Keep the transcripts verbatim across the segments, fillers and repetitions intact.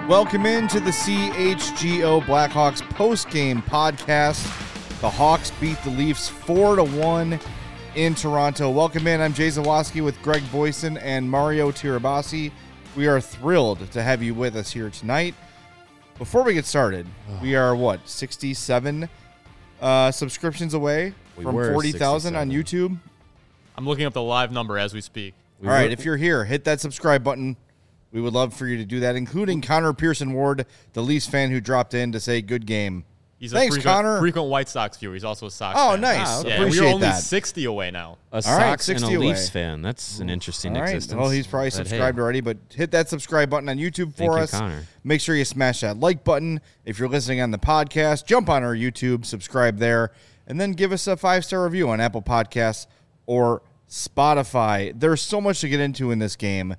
Welcome into the C H G O Blackhawks post-game podcast. The Hawks beat the Leafs four to one in Toronto. Welcome in. I'm Jay Zawoski with Greg Boyson and Mario Tirabassi. We are thrilled to have you with us here tonight. Before we get started, oh. we are, what, sixty-seven uh, subscriptions away we from forty thousand on YouTube? I'm looking up the live number as we speak. We All right, were- if you're here, hit that subscribe button. We would love for you to do that, including Connor Pearson Ward, the Leafs fan who dropped in to say good game. He's Thanks, a frequent, Connor. frequent White Sox viewer. He's also a Sox oh, fan. Nice. Oh, okay. yeah, Appreciate we're only that. sixty away now. A Sox right, and a away. Leafs fan. That's an interesting All right. existence. Well, he's probably but subscribed hey. already, but hit that subscribe button on YouTube for Thank us. You, Connor. Make sure you smash that like button. If you're listening on the podcast, jump on our YouTube, subscribe there, and then give us a five-star review on Apple Podcasts or Spotify. There's so much to get into in this game.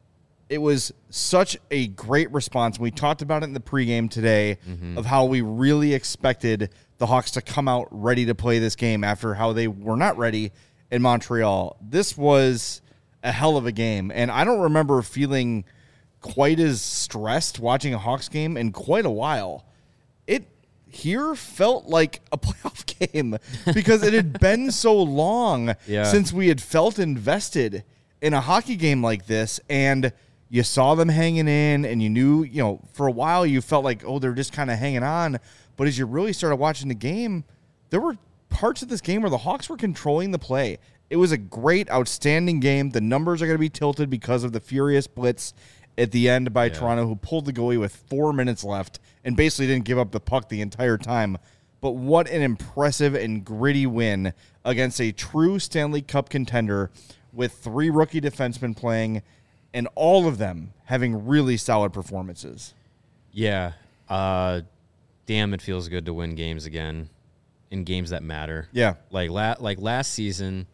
It was such a great response. We talked about it in the pregame today mm-hmm. of how we really expected the Hawks to come out ready to play this game after how they were not ready in Montreal. This was a hell of a game, and I don't remember feeling quite as stressed watching a Hawks game in quite a while. It here felt like a playoff game because it had been so long yeah. since we had felt invested in a hockey game like this, and you saw them hanging in, and you knew, you know, for a while you felt like, oh, they're just kind of hanging on. But as you really started watching the game, there were parts of this game where the Hawks were controlling the play. It was a great, outstanding game. The numbers are going to be tilted because of the furious blitz at the end by yeah. Toronto, who pulled the goalie with four minutes left and basically didn't give up the puck the entire time. But what an impressive and gritty win against a true Stanley Cup contender with three rookie defensemen playing and all of them having really solid performances. Yeah. Uh, damn, it feels good to win games again in games that matter. Yeah. Like, la- like last season,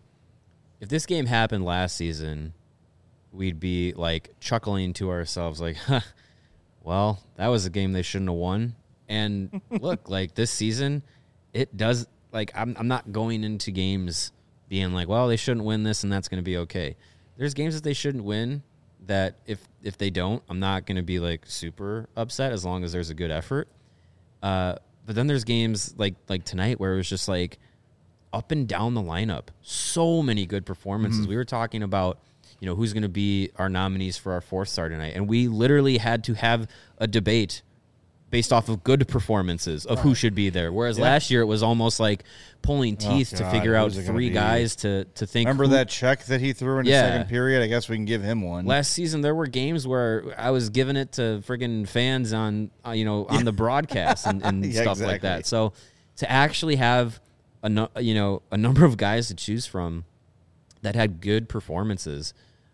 if this game happened last season, we'd be, like, chuckling to ourselves like, huh, well, that was a game they shouldn't have won. And look, like, this season, it does, like, I'm I'm not going into games being like, well, they shouldn't win this and that's going to be okay. There's games that they shouldn't win that if if they don't, I'm not going to be, like, super upset as long as there's a good effort. Uh, but then there's games like like tonight where it was just, like, up and down the lineup. So many good performances. Mm-hmm. We were talking about, you know, who's going to be our nominees for our fourth star tonight. And we literally had to have a debate based off of good performances of right. who should be there. Whereas yeah. last year it was almost like pulling teeth oh, to figure out three guys to, to think. Remember who, that check that he threw in yeah. the second period? I guess we can give him one. Last season there were games where I was giving it to friggin' fans on, uh, you know, on the broadcast and, and yeah, stuff exactly. like that. So to actually have a no, you know a number of guys to choose from that had good performances,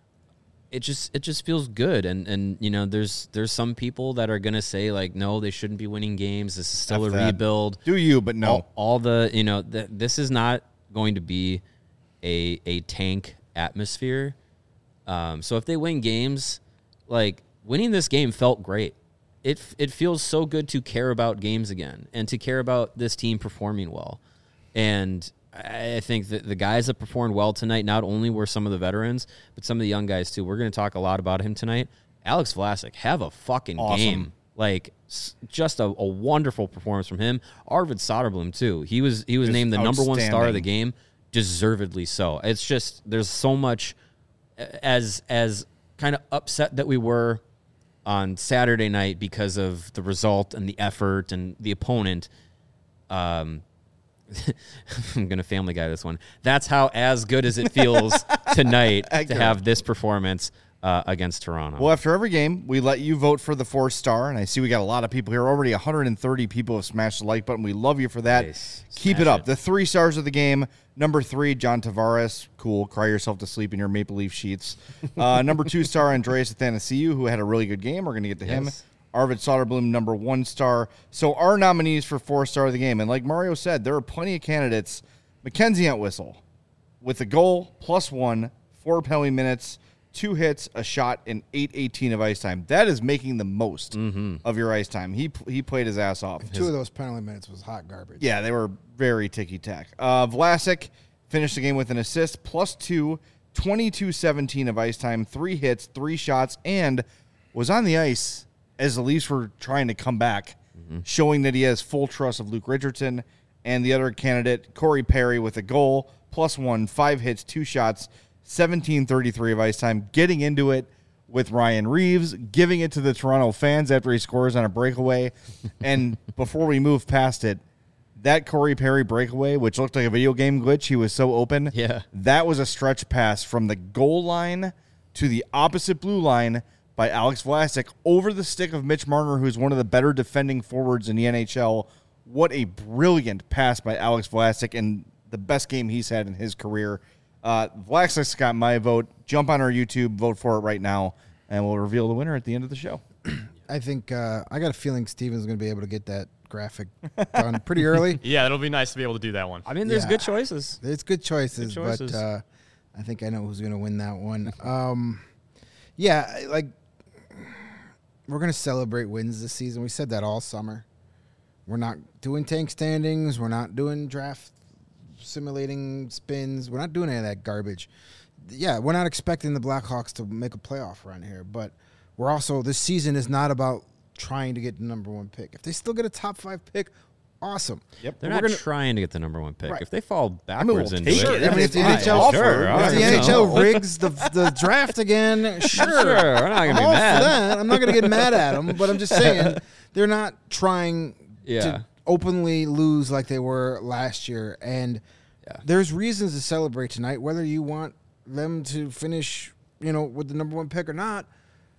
it just it just feels good. And and you know there's there's some people that are gonna say, like, no, they shouldn't be winning games. This is still F a that. rebuild. Do you? But no, all, all the you know th- this is not going to be a a tank atmosphere. Um, so if they win games, like winning this game felt great. It it feels so good to care about games again and to care about this team performing well. And I think that the guys that performed well tonight, not only were some of the veterans, but some of the young guys too. We're going to talk a lot about him tonight. Alex Vlasic, have a fucking awesome. game. Like, just a, a wonderful performance from him. Arvid Soderblom too. He was he was just named the number one star of the game, deservedly so. It's just there's so much as as kind of upset that we were on Saturday night because of the result and the effort and the opponent. Um. I'm going to Family Guy this one. That's how as good as it feels tonight to have this performance uh, against Toronto. Well, after every game, we let you vote for the fourth star, and I see we got a lot of people here. Already one hundred thirty people have smashed the like button. We love you for that. Nice. Keep it up. It. The three stars of the game. Number three, John Tavares. Cool. Cry yourself to sleep in your Maple Leaf sheets. Uh, number two star, Andreas Athanasiou, who had a really good game. We're going to get to yes. him. Arvid Soderblom, number one star. So our nominees for four star of the game, and like Mario said, there are plenty of candidates. Mackenzie Entwistle with a goal, plus one, four penalty minutes, two hits, a shot, and eight eighteen of ice time. That is making the most mm-hmm. of your ice time. He he played his ass off. And two his, of those penalty minutes was hot garbage. Yeah, they were very ticky-tack. Uh, Vlasic finished the game with an assist, plus two, twenty-two seventeen of ice time, three hits, three shots, and was on the ice as the Leafs were trying to come back, mm-hmm. showing that he has full trust of Luke Richardson, and the other candidate, Corey Perry, with a goal, plus one, five hits, two shots, seventeen thirty-three of ice time, getting into it with Ryan Reeves, giving it to the Toronto fans after he scores on a breakaway. And before we move past it, that Corey Perry breakaway, which looked like a video game glitch, he was so open. Yeah. That was a stretch pass from the goal line to the opposite blue line by Alex Vlasic over the stick of Mitch Marner, who's one of the better defending forwards in the N H L. What a brilliant pass by Alex Vlasic, and the best game he's had in his career. Uh, Vlasic's got my vote. Jump on our YouTube, vote for it right now, and we'll reveal the winner at the end of the show. I think uh, I got a feeling Steven's going to be able to get that graphic done pretty early. Yeah, it'll be nice to be able to do that one. I mean, there's Yeah. good choices. It's good choices, Good choices. but uh, I think I know who's going to win that one. Um, yeah, like we're going to celebrate wins this season. We said that all summer. We're not doing tank standings. We're not doing draft simulating spins. We're not doing any of that garbage. Yeah, we're not expecting the Blackhawks to make a playoff run here, but we're also, this season is not about trying to get the number one pick. If they still get a top five pick, awesome. Yep. They're We're not gonna- trying to get the number one pick. Right. If they fall we'll backwards into take it, it. I mean, if the fine. N H L Sure, If the I N H L know. rigs the the draft again, sure. Sure, we're not gonna I'm be all mad. for that. I'm not going to get mad at them, but I'm just saying they're not trying Yeah. to openly lose like they were last year. And Yeah. there's reasons to celebrate tonight, whether you want them to finish, you know, with the number one pick or not.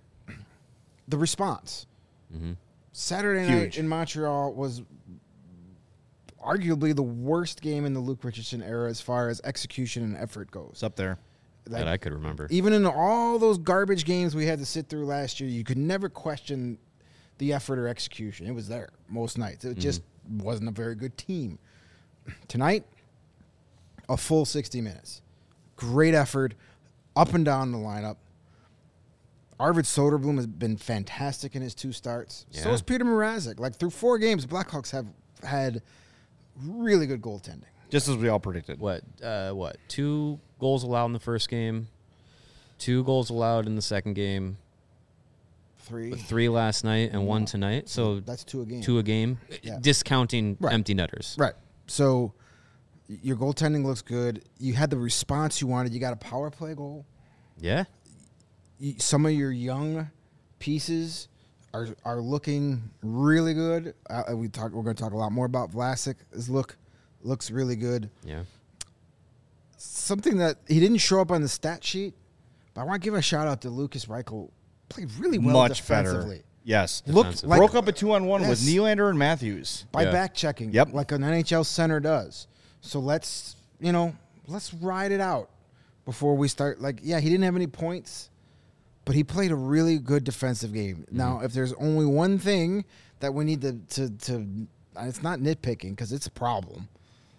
The response. Mm-hmm. Saturday Huge. night in Montreal was arguably the worst game in the Luke Richardson era as far as execution and effort goes. It's up there. Like, that I could remember. even in all those garbage games we had to sit through last year, you could never question the effort or execution. It was there most nights. It just wasn't a very good team. Tonight, a full sixty minutes. Great effort, up and down the lineup. Arvid Soderblom has been fantastic in his two starts. So Yeah. is Peter Mrazek. Like, through four games, the Blackhawks have had really good goaltending. Just as we all predicted. What? Uh, what? Two goals allowed in the first game. Two goals allowed in the second game. Three. Three last night and one tonight. So That's two a game. two a game, Yeah. discounting Right. empty netters. Right. So your goaltending looks good. You had the response you wanted. You got a power play goal. Yeah. You, some of your young pieces are are looking really good. Uh, we talk. We're going to talk a lot more about Vlasic. His look looks really good. Yeah. Something that he didn't show up on the stat sheet, but I want to give a shout out to Lucas Reichel. Played really well Much defensively. better. Yes. Looked Defensive. like Broke up a two-on-one with Yes. Nylander and Matthews. by Yeah. back checking, Yep. like an N H L center does. So let's, you know, let's ride it out before we start. Like, yeah, he didn't have any points, but he played a really good defensive game. Mm-hmm. Now, if there's only one thing that we need to to, to it's not nitpicking because it's a problem.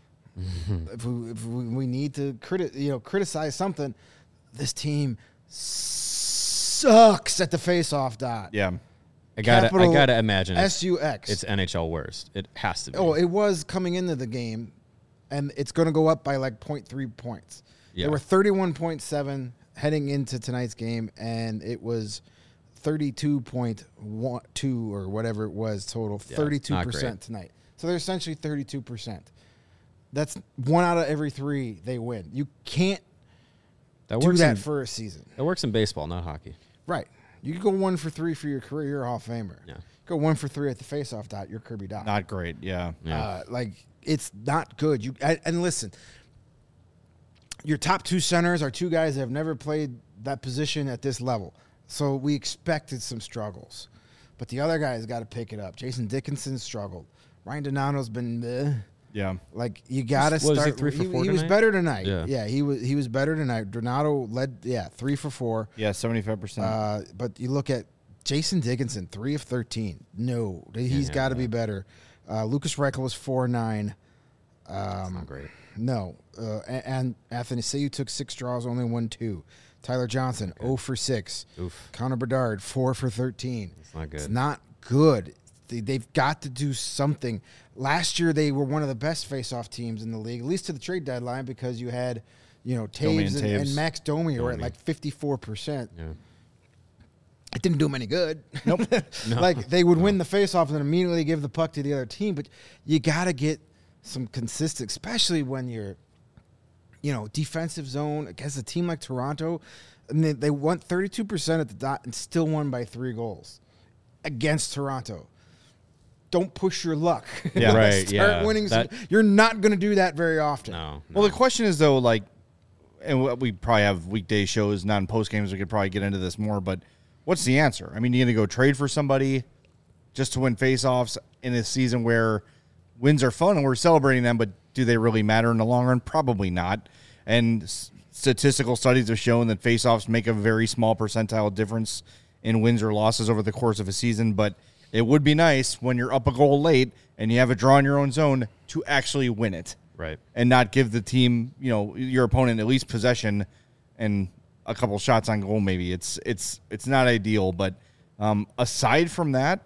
If we if we, we need to criti- you know criticize something, this team sucks at the face-off dot. Yeah. I gotta, I Capital gotta imagine it's, S U X. it's N H L worst. It has to be. Oh, it was coming into the game, and it's going to go up by like zero point three points. Yeah. They were thirty-one point seven heading into tonight's game, and it was thirty-two point two or whatever it was total, Yeah, thirty-two not percent great. tonight. So they're essentially thirty-two percent. That's one out of every three they win. You can't that do works. that in, for a season. that works in baseball, not hockey. Right. You could go one for three for your career, you're a Hall of Famer. Yeah. Go one for three at the face-off dot, you're Kirby Dot. Not great. Yeah. Yeah. Uh, like it's not good. You and, and listen, your top two centers are two guys that have never played that position at this level, so we expected some struggles. But the other guys got to pick it up. Jason Dickinson struggled. Ryan Donato's been uh, Yeah. like you got to Was- was he start. three for four he was tonight? better tonight. Yeah. yeah, he was he was better tonight. Donato led. Yeah, three for four. Yeah, seventy-five percent. Uh, but you look at Jason Dickinson, three of thirteen. No, he's yeah, got to yeah. be better. Uh, Lucas Reichel was four nine. That's Um, not great. no, uh, and, and Anthony Sayu took six draws, only won two. Tyler Johnson, zero for six. Oof. Connor Bedard, four for thirteen. It's not good. It's not good. They, they've got to do something. Last year, they were one of the best face-off teams in the league, at least to the trade deadline, because you had, you know, Domi Taves and and, and Taves. Max Domi were at Domi. like fifty-four percent. Yeah. it didn't do them any good. Nope. Like they would No. win the faceoff and then immediately give the puck to the other team. But you got to get some consistent, especially when you're, you know, defensive zone against a team like Toronto. And they, they won thirty-two percent at the dot and still won by three goals against Toronto. Don't push your luck. Yeah. Right, Start yeah. winning. That- some, you're not going to do that very often. No. Well, no. the question is though, like, and we- we probably have weekday shows, non post games. We could probably get into this more, but what's the answer? I mean, you gonna go trade for somebody just to win faceoffs in a season where wins are fun and we're celebrating them, but do they really matter in the long run? Probably not. And s- statistical studies have shown that faceoffs make a very small percentile difference in wins or losses over the course of a season, but it would be nice when you're up a goal late and you have a draw in your own zone to actually win it. Right. And not give the team, you know, your opponent at least possession and a couple shots on goal. Maybe it's it's it's not ideal, but um, aside from that,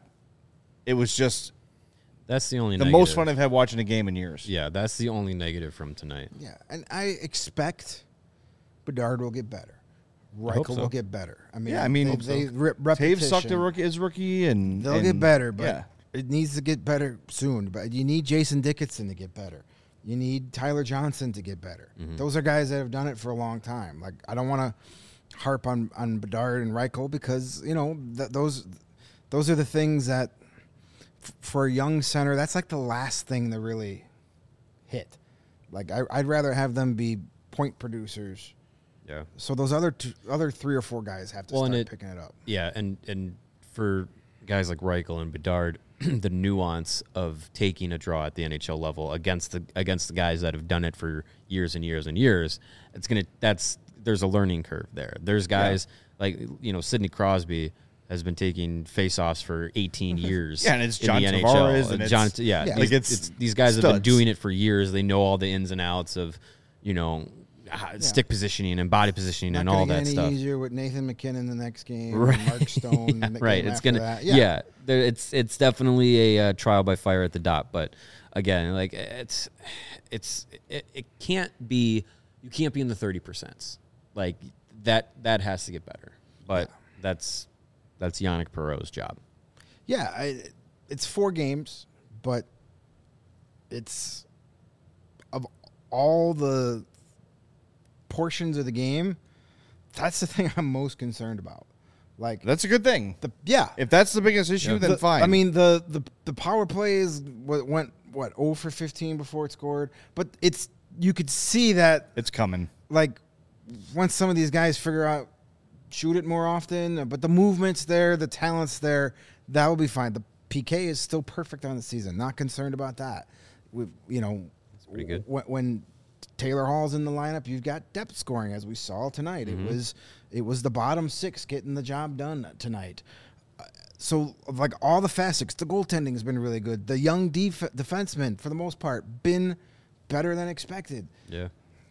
it was just That's the only the negative. most fun I've had watching a game in years. Yeah, that's the only negative from tonight. Yeah, and I expect Bedard will get better. hope Reichel so. will get better. I mean, Yeah, I mean, they, hope they so. rip Taves repetition. sucked a rookie, his rookie, and They'll and- get better, but yeah. it needs to get better soon. But you need Jason Dickinson to get better. You need Tyler Johnson to get better. Mm-hmm. Those are guys that have done it for a long time. Like I don't want to harp on on Bedard and Reichel because you know th- those those are the things that f- for a young center that's like the last thing to really hit. Like I, I'd rather have them be point producers. Yeah. So those other two, other three or four guys have to Well, and start it- picking it up. Yeah, and and for guys like Reichel and Bedard, the nuance of taking a draw at the N H L level against the against the guys that have done it for years and years and years, it's gonna that's there's a learning curve there. There's guys like you know Sidney Crosby has been taking faceoffs for eighteen years. Yeah, and it's in John the N H Tavares, L. and John, it's- yeah, Yeah. these, like, it's it's, these guys have been studs. doing it for years. They know all the ins and outs of you know uh, stick positioning and body positioning Not and gonna all get that any stuff. easier with Nathan McKinnon the next game, Right. and Mark Stone, the right. game It's after gonna, that. yeah. there, it's it's definitely a uh, trial by fire at the dot. But again, like it's it's it, it can't be you can't be in the thirty percent. Like that that has to get better. But that's that's Yannick Perreault's job. Yeah, I, it's four games, but it's of all the portions of the game, that's the thing I'm most concerned about. Like That's a good thing. the yeah, If that's the biggest issue, then the- fine. I mean the the the power plays wa- went what zero for fifteen before it scored, but it's you could see that it's coming. like once some of these guys figure out shoot it more often, but the movement's there, the talent's there, that will be fine. The P K is still perfect on the season. Not concerned about that. We, you know, pretty good. When, when Taylor Hall's in the lineup, you've got depth scoring as we saw tonight. Mm-hmm. It was it was the bottom six getting the job done tonight. Uh, So like all the facets, the goaltending has been really good. The young def- defensemen, for the most part, been better than expected. Yeah.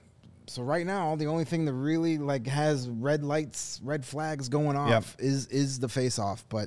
So right now, the only thing that really like has red lights, red flags going off Yep. is is the face off. But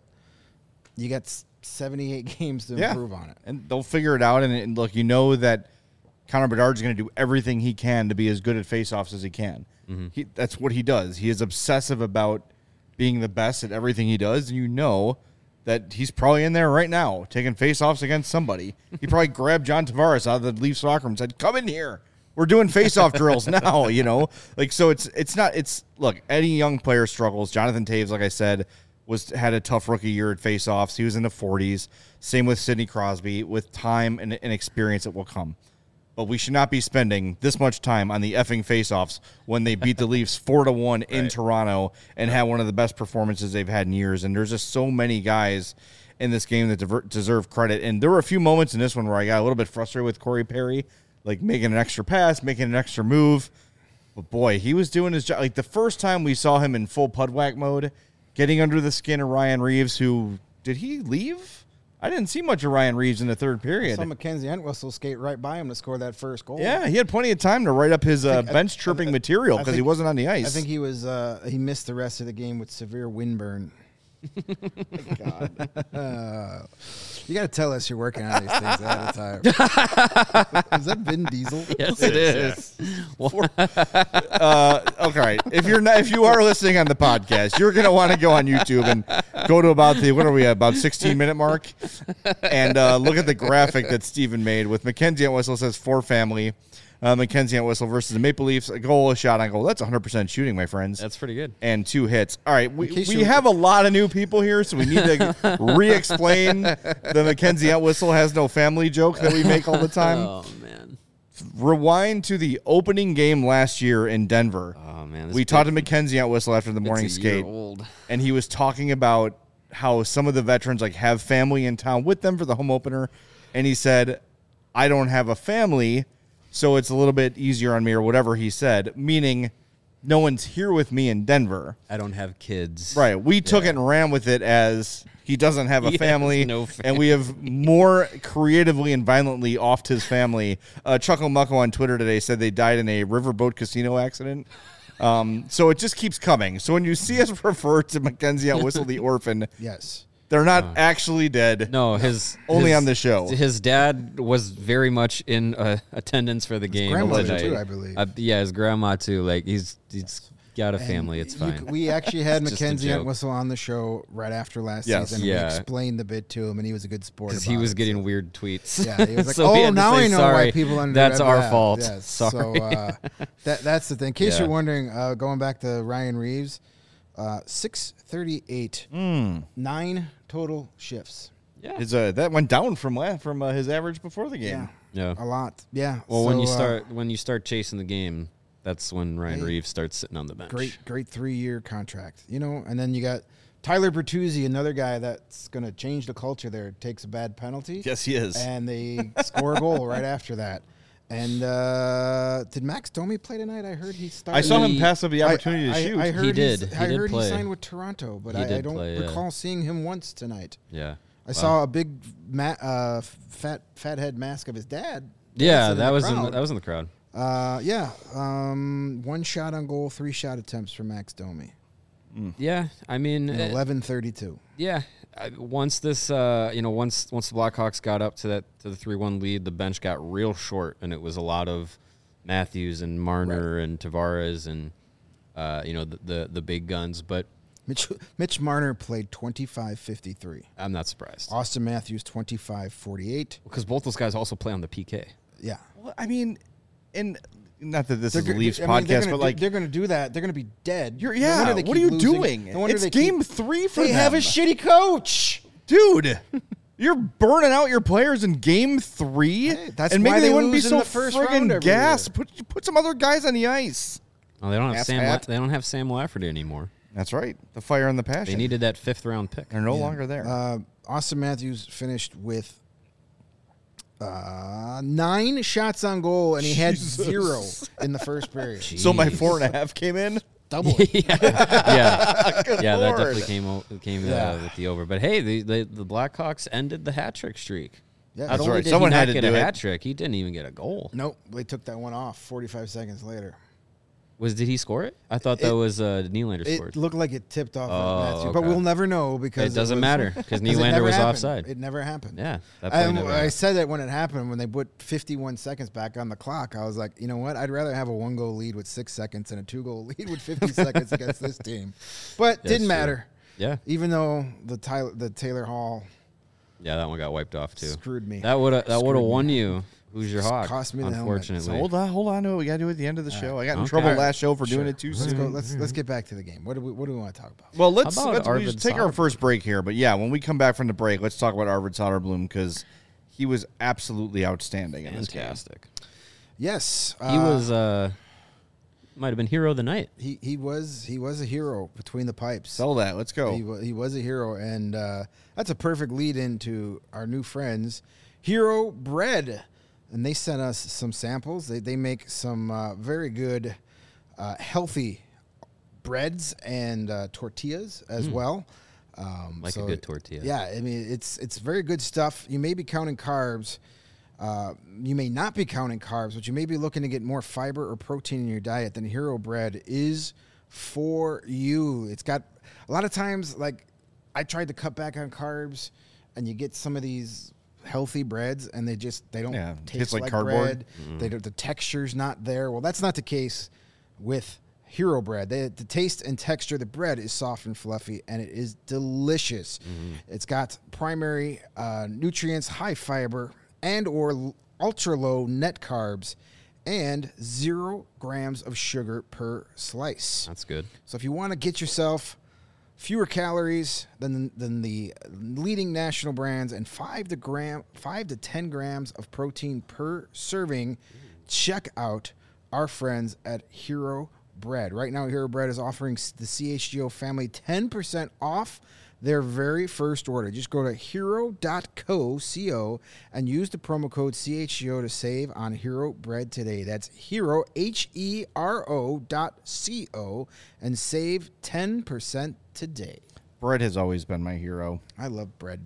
you got s- seventy-eight games to Yeah. improve on it. And they'll figure it out. And, and look, you know that Connor Bedard's going to do everything he can to be as good at faceoffs as he can. He, that's what he does. He is obsessive about being the best at everything he does. And you know that he's probably in there right now taking faceoffs against somebody. He probably grabbed John Tavares out of the Leafs locker room and said, "Come in here. We're doing faceoff drills now." You know, like so. It's it's not. It's look. Any young player struggles. Jonathan Taves, like I said, was had a tough rookie year at faceoffs. He was in the forties. Same with Sidney Crosby. With time and, and experience, it will come. But we should not be spending this much time on the effing faceoffs when they beat the Leafs four to one in Right. Toronto and had one of the best performances they've had in years. And there's just so many guys in this game that dever- deserve credit. And there were a few moments in this one where I got a little bit frustrated with Corey Perry, like making an extra pass, making an extra move. But boy, he was doing his job. Like the first time we saw him in full Pudwack mode, getting under the skin of Ryan Reeves, who did he leave? I didn't see much of Ryan Reeves in the third period. Saw Mackenzie Entwistle skate right by him to score that first goal. Yeah, he had plenty of time to write up his uh, think- I- bench chirping I- material I because he think- wasn't on the ice. I think he was uh, he missed the rest of the game with severe windburn. God. Uh, You got to tell us you're working on these things ahead of time. Is that Vin Diesel? Yes, it is. Uh, okay, if you're not, if you are listening on the podcast, you're gonna want to go on YouTube and go to about the what are we at, about sixteen minute mark, and uh, look at the graphic that Steven made with Mackenzie Entwistle. Says for family, uh, Mackenzie Entwistle versus the Maple Leafs. A goal, a shot on goal. That's one hundred percent shooting, my friends. That's pretty good. And two hits. All right, we, case we you- have a lot of new people here, so we need to re-explain the Mackenzie Entwistle has no family joke that we make all the time. Oh man. Rewind to the opening game last year in Denver. Oh man. this We big- talked to Mackenzie Entwistle after the morning it's a year skate, old. and he was talking about how some of the veterans like have family in town with them for the home opener, and he said, "I don't have a family, so it's a little bit easier on me," or whatever he said, meaning no one's here with me in Denver. I don't have kids. Right. We took it and ran with it as he doesn't have a He has family, no and we have more creatively and violently offed his family. Uh, Chuckle Mucko on Twitter today said they died in a riverboat casino accident. Um, so it just keeps coming. So when you see us refer to Mackenzie Entwistle the orphan, Yes. they're not actually dead. No, his Only his- on the show. His dad was very much in uh, attendance for the game grandmother tonight. too, I believe. Uh, yeah, his grandma too. Like he's he's got a family. It's You fine. c- we actually had It's just a Mackenzie joke. Entwistle on the show right after last Yes. season. Yeah. We explained the bit to him, and he was a good sport. Because about he was it, getting so- weird tweets. Yeah, he was like, So we "Oh, had to now say, I know sorry, why people under that's our that." fault. Yes. Sorry. So uh, that that's the thing. In case Yeah. you're wondering, uh, going back to Ryan Reeves, uh, six thirty-eight, nine total shifts. Yeah. His, uh, that went down from la- from uh, his average before the game. Yeah. A lot. Yeah. Well, when So, you uh, start when you start chasing the game, that's when Ryan Hey. Reeves starts sitting on the bench. great, great three-year contract. You know, and then you got Tyler Bertuzzi, another guy that's going to change the culture there. Takes a bad penalty. Yes, he is. And they score a goal right after that. And uh, did Max Domi play tonight? I heard he started. I saw him He- pass up the I- opportunity I, to shoot. I heard He he's- did. He I did heard play. he signed with Toronto, but He I, I did don't play, yeah. recall seeing him once tonight. Yeah. I saw a big ma- uh, fat fathead mask of his dad. Yeah, dancing that the was in the, crowd. that was in the crowd. Uh, yeah, um, one shot on goal, three shot attempts for Max Domi. Yeah, I mean, uh, Eleven thirty-two. yeah. I- Once this, uh, you know, once once the Blackhawks got up to that to the three one lead, the bench got real short, and it was a lot of Matthews and Marner and Tavares and uh, you know the, the the big guns. But Mitch Mitch Marner played twenty-five fifty-three. I'm not surprised Austin Matthews twenty-five forty-eight. because both those guys also play on the P K. Yeah. Well, I mean, and not that this They're is a go- Leafs I mean, they're podcast, gonna but do- like, they're going to do that. They're going to be dead. you're, No yeah, wonder they what are keep you losing. doing? No wonder It's they game keep, three for They them. have a shitty coach. Dude, you're burning out your players in game three, Hey, that's and maybe why they, they wouldn't be lose in so the first round friggin' every gassed. year. Put put some other guys on the ice. Oh, they don't have Ass Sam. hat. La- they don't have Sam Lafferty anymore. That's right. The fire and the passion. They needed that fifth round pick. They're no Yeah. longer there. Uh, Austin Matthews finished with uh, nine shots on goal, and he had Jesus. zero in the first period. so my Jeez. four and a half came in. Double. yeah, yeah, Good yeah. That Lord. definitely came o- came uh, Yeah. with the over. But hey, the, the the Blackhawks ended the hat trick streak. Yeah. Not That's only right. did Someone he had not to get do a it. hat trick, he didn't even get a goal. Nope, they took that one off forty-five seconds later. Was did he score it? I thought that It- was uh, Nylander It scored. looked like it tipped off Oh, at Matthews, but okay. we'll never know because It doesn't was- matter because 'cause it Nylander never was happened. offside. It never happened. Yeah, that play I, never I happened. said that when it happened, when they put fifty-one seconds back on the clock, I was like, you know what? I'd rather have a one-goal lead with six seconds than a two-goal lead with fifty seconds against this team. But That's didn't true. matter, Yeah, even though the Tyler, the Taylor Hall yeah, that one got wiped off too. screwed me. That would have that would have Screwed won me. you. Who's your Just hawk? cost me the helmet. Unfortunately, So hold on, hold on to it. We got to do it at the end of the show. I got in Okay. trouble All right. last show for doing Sure. it too Let's soon. go. Let's let's get back to the game. What do we What do we want to talk about? Well, let's, How about let's we Arvid just take our Soderblom? first break here. But yeah, when we come back from the break, let's talk about Arvid Soderblom because he was absolutely outstanding in this game. fantastic. Yes, He uh, was uh, might have been hero of the night. He he was he was a hero between the pipes. Sell that. Let's go. He, wa- he was a hero, and uh, that's a perfect lead into our new friends, Hero Bread. And they sent us some samples. They, they make some uh, very good, uh, healthy breads and uh, tortillas as well. Um, Like a good tortilla. Yeah, I mean, it's it's very good stuff. You may be counting carbs. Uh, you may not be counting carbs, but you may be looking to get more fiber or protein in your diet. Then Hero Bread is for you. It's got a lot of times, like I tried to cut back on carbs and you get some of these healthy breads, and they just they don't Yeah, taste tastes like like, cardboard. bread. They don't, the texture's not there. Well, that's not the case with Hero Bread. They, the taste and texture of the bread is soft and fluffy, and it is delicious. It's got primary uh, nutrients, high fiber, and or ultra low net carbs, and zero grams of sugar per slice. That's good. So if you want to get yourself fewer calories than than the leading national brands and five to gram five to ten grams of protein per serving, check out our friends at Hero Bread. Right now, Hero Bread is offering the C H G O family ten percent off their very first order. Just go to hero dot co and use the promo code C H G O to save on Hero Bread today. That's Hero, H E R O dot C O, and save ten percent today. Bread has always been my hero. I love bread.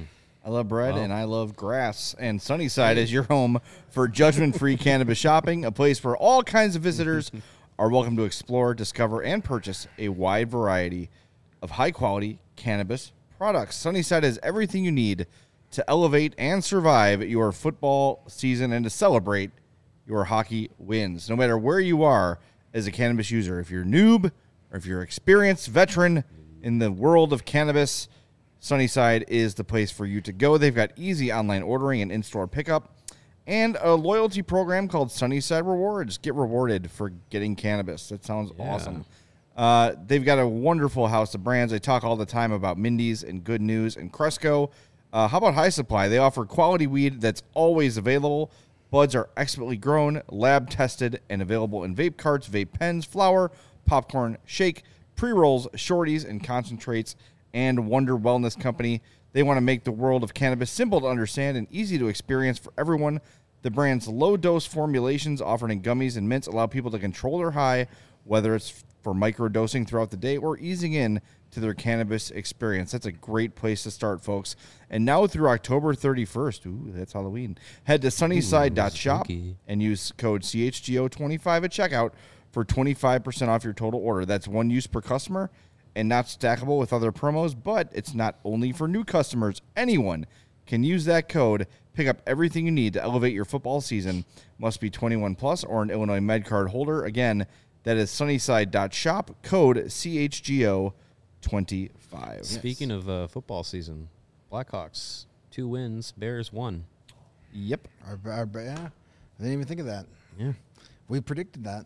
I love bread and I love grass. And Sunnyside is your home for judgment-free cannabis shopping, a place where all kinds of visitors are welcome to explore, discover, and purchase a wide variety of high-quality cannabis products. Sunnyside has everything you need to elevate and survive your football season and to celebrate your hockey wins. No matter where you are as a cannabis user, if you're a noob or if you're an experienced veteran in the world of cannabis, Sunnyside is the place for you to go. They've got easy online ordering and in-store pickup and a loyalty program called Sunnyside Rewards. Get rewarded for getting cannabis. That sounds Yeah. awesome. Uh, they've got a wonderful house of brands. They talk all the time about Mindy's and Good News and Cresco. Uh, how about High Supply? They offer quality weed that's always available. Buds are expertly grown, lab tested, and available in vape carts, vape pens, flour, popcorn, shake, pre-rolls, shorties, and concentrates. And Wonder Wellness Company. They want to make the world of cannabis simple to understand and easy to experience for everyone. The brand's low-dose formulations offered in gummies and mints allow people to control their high, whether it's for microdosing throughout the day or easing in to their cannabis experience. That's a great place to start, folks. And now through October thirty-first, ooh, that's Halloween, head to sunnyside dot shop spooky. and use code C H G O twenty-five at checkout for twenty-five percent off your total order. That's one use per customer and not stackable with other promos, but it's not only for new customers. Anyone can use that code, pick up everything you need to elevate your football season. Must be twenty-one plus or an Illinois MedCard holder. Again, that is sunnyside dot shop, code C H G O twenty-five. Speaking of uh, football season, Blackhawks, two wins, Bears, one. Yep, Our, our, yeah, I didn't even think of that. Yeah. We predicted that.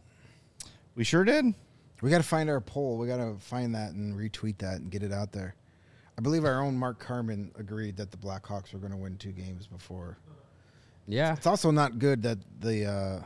we sure did. We got to find our poll. We got to find that and retweet that and get it out there. I believe our own Mark Carman agreed that the Blackhawks were going to win two games before. Yeah. It's also not good that the uh,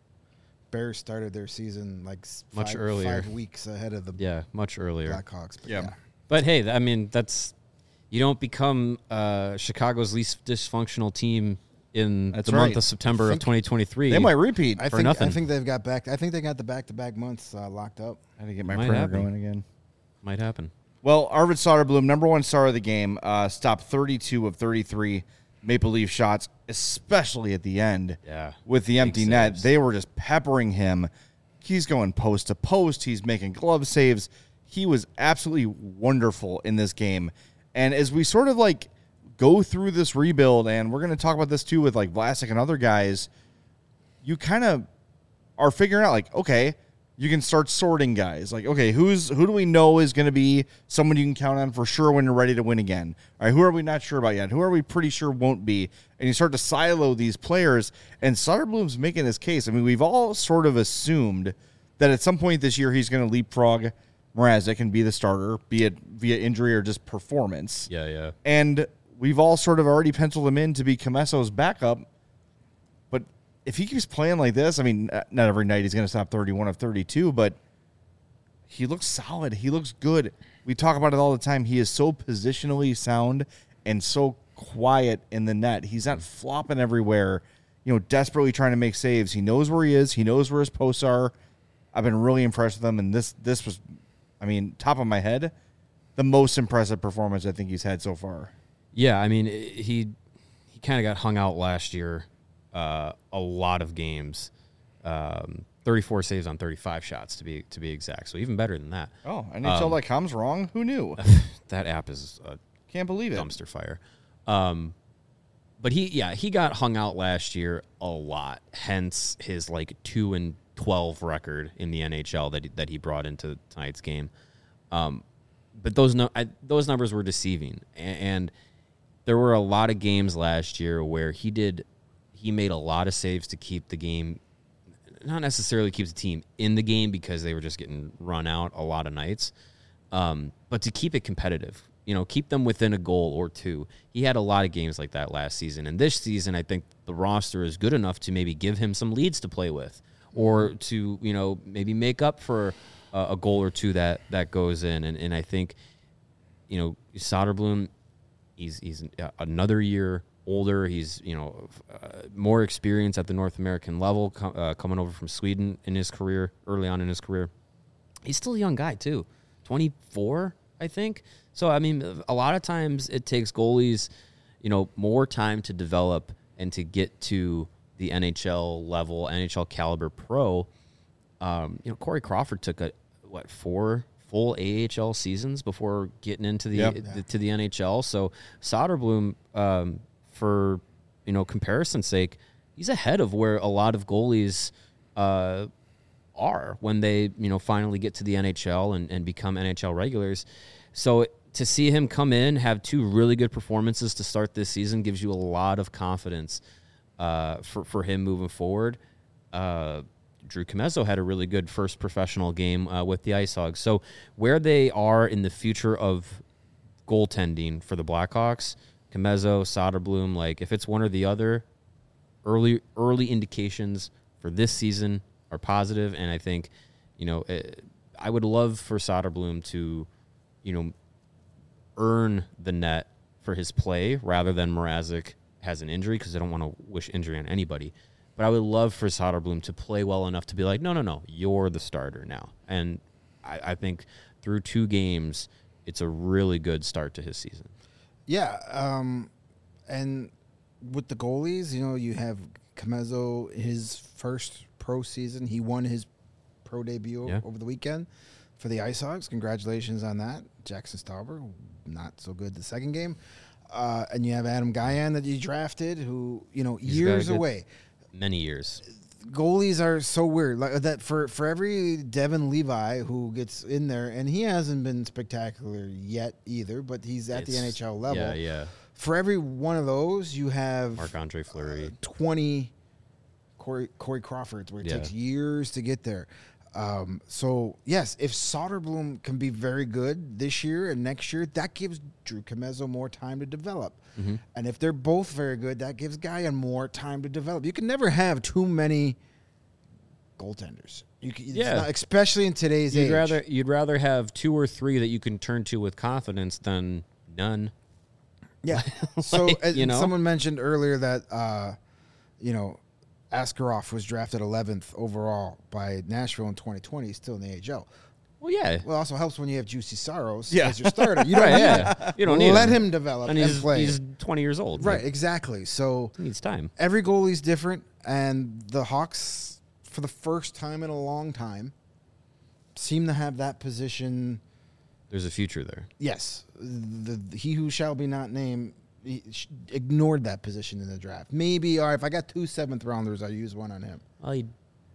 Bears started their season like s- Much five, earlier. five weeks ahead of the Yeah, much earlier. Blackhawks. But Yeah. yeah. But hey, th- I mean, that's you don't become uh, Chicago's least dysfunctional team in That's the month right. of September of think twenty twenty-three. They might repeat. I For think nothing. I think they've got back. I think they got the back-to-back months uh, locked up. I had to get my Might printer happen. going again. Might happen. Well, Arvid Soderblom, number one star of the game, uh, stopped thirty-two of thirty-three Maple Leaf shots, especially at the end. Yeah. With the empty Big net. saves. They were just peppering him. He's going post to post. He's making glove saves. He was absolutely wonderful in this game. And as we sort of like go through this rebuild, and we're going to talk about this too with like Vlasic and other guys, you kind of are figuring out like, okay, you can start sorting guys. Like, okay, who's who do we know is going to be someone you can count on for sure when you're ready to win again? All right, who are we not sure about yet? Who are we pretty sure won't be? And you start to silo these players, and Soderblom's making his case. I mean, we've all sort of assumed that at some point this year he's going to leapfrog Mrazek and be the starter, be it via injury or just performance. Yeah, yeah. And we've all sort of already penciled him in to be Comesso's backup. But if he keeps playing like this, I mean, not every night he's going to stop thirty-one of thirty-two, but he looks solid. He looks good. We talk about it all the time. He is so positionally sound and so quiet in the net. He's not flopping everywhere, you know, desperately trying to make saves. He knows where he is. He knows where his posts are. I've been really impressed with him, and this this was, I mean, top of my head, the most impressive performance I think he's had so far. Yeah, I mean, i- he he kind of got hung out last year uh, a lot of games. Um, thirty-four saves on thirty-five shots to be to be exact. So even better than that. Oh, N H L dot com's wrong? Who knew? That app is a Can't believe it. dumpster fire. Um, but he, yeah, he got hung out last year a lot. Hence his like two and twelve record in the N H L that he, that he brought into tonight's game. Um, but those no, I, those numbers were deceiving, and, and there were a lot of games last year where he did, he made a lot of saves to keep the game, not necessarily keep the team in the game because they were just getting run out a lot of nights, um, but to keep it competitive. You know, keep them within a goal or two. He had a lot of games like that last season. And this season, I think the roster is good enough to maybe give him some leads to play with or to, you know, maybe make up for a, a goal or two that, that goes in. And, and I think, you know, Soderblom, he's, he's another year older. He's, you know, uh, more experience at the North American level, com- uh, coming over from Sweden in his career, early on in his career. He's still a young guy, too. twenty-four, I think. So, I mean, a lot of times it takes goalies, you know, more time to develop and to get to the N H L level, N H L caliber pro. Um, you know, Corey Crawford took a what four full A H L seasons before getting into the, Yep. the to the N H L. So Soderblom, um, for you know comparison's sake, he's ahead of where a lot of goalies uh, are when they you know finally get to the N H L and, and become N H L regulars. So to see him come in, have two really good performances to start this season gives you a lot of confidence uh, for, for him moving forward. Uh, Drew Commesso had a really good first professional game uh, with the Ice Hogs. So where they are in the future of goaltending for the Blackhawks, Commesso, Soderblom, like if it's one or the other, early early indications for this season are positive, and I think, you know, it, I would love for Soderblom to, you know, earn the net for his play rather than Mrazek has an injury, because I don't want to wish injury on anybody. But I would love for Soderblom to play well enough to be like, no, no, no, you're the starter now. And I, I think through two games, it's a really good start to his season. Yeah, um, and with the goalies, you know, you have Commesso, his first pro season. He won his pro debut Yeah. over the weekend for the Ice Hogs. Congratulations on that. Jackson Stauber, not so good the second game. Uh, and you have Adam Guyan that you drafted, who, you know, He's got a years good- away. Many years. Goalies are so weird. Like that for, for every Devin Levi who gets in there, and he hasn't been spectacular yet either, but he's at the It's- N H L level. Yeah, yeah. For every one of those, you have Marc-Andre Fleury. uh, twenty Corey, Corey Crawfords, where it Yeah. takes years to get there. Um, so, yes, if Soderblom can be very good this year and next year, that gives Drew Commesso more time to develop. Mm-hmm. And if they're both very good, that gives Guyan more time to develop. You can never have too many goaltenders. You can, it's Yeah. not- especially in today's You'd age. rather you'd rather have two or three that you can turn to with confidence than none. Yeah. So Like, as you know? someone mentioned earlier that uh, you know, Askarov was drafted eleventh overall by Nashville in twenty twenty. He's still in the A H L. Well, yeah. Well, it also helps when you have Juicy Saros Yeah. as your starter. You don't Right, need yeah. him. You don't need Let him. him develop And and, he's play. he's twenty years old. right, Like, exactly. So he needs time. every goalie's different, and the Hawks, for the first time in a long time, seem to have that position. There's a future there. Yes, the, the he who shall be not named he sh- ignored that position in the draft. Maybe, all right, if I got two seventh rounders, I use one on him. Well, he,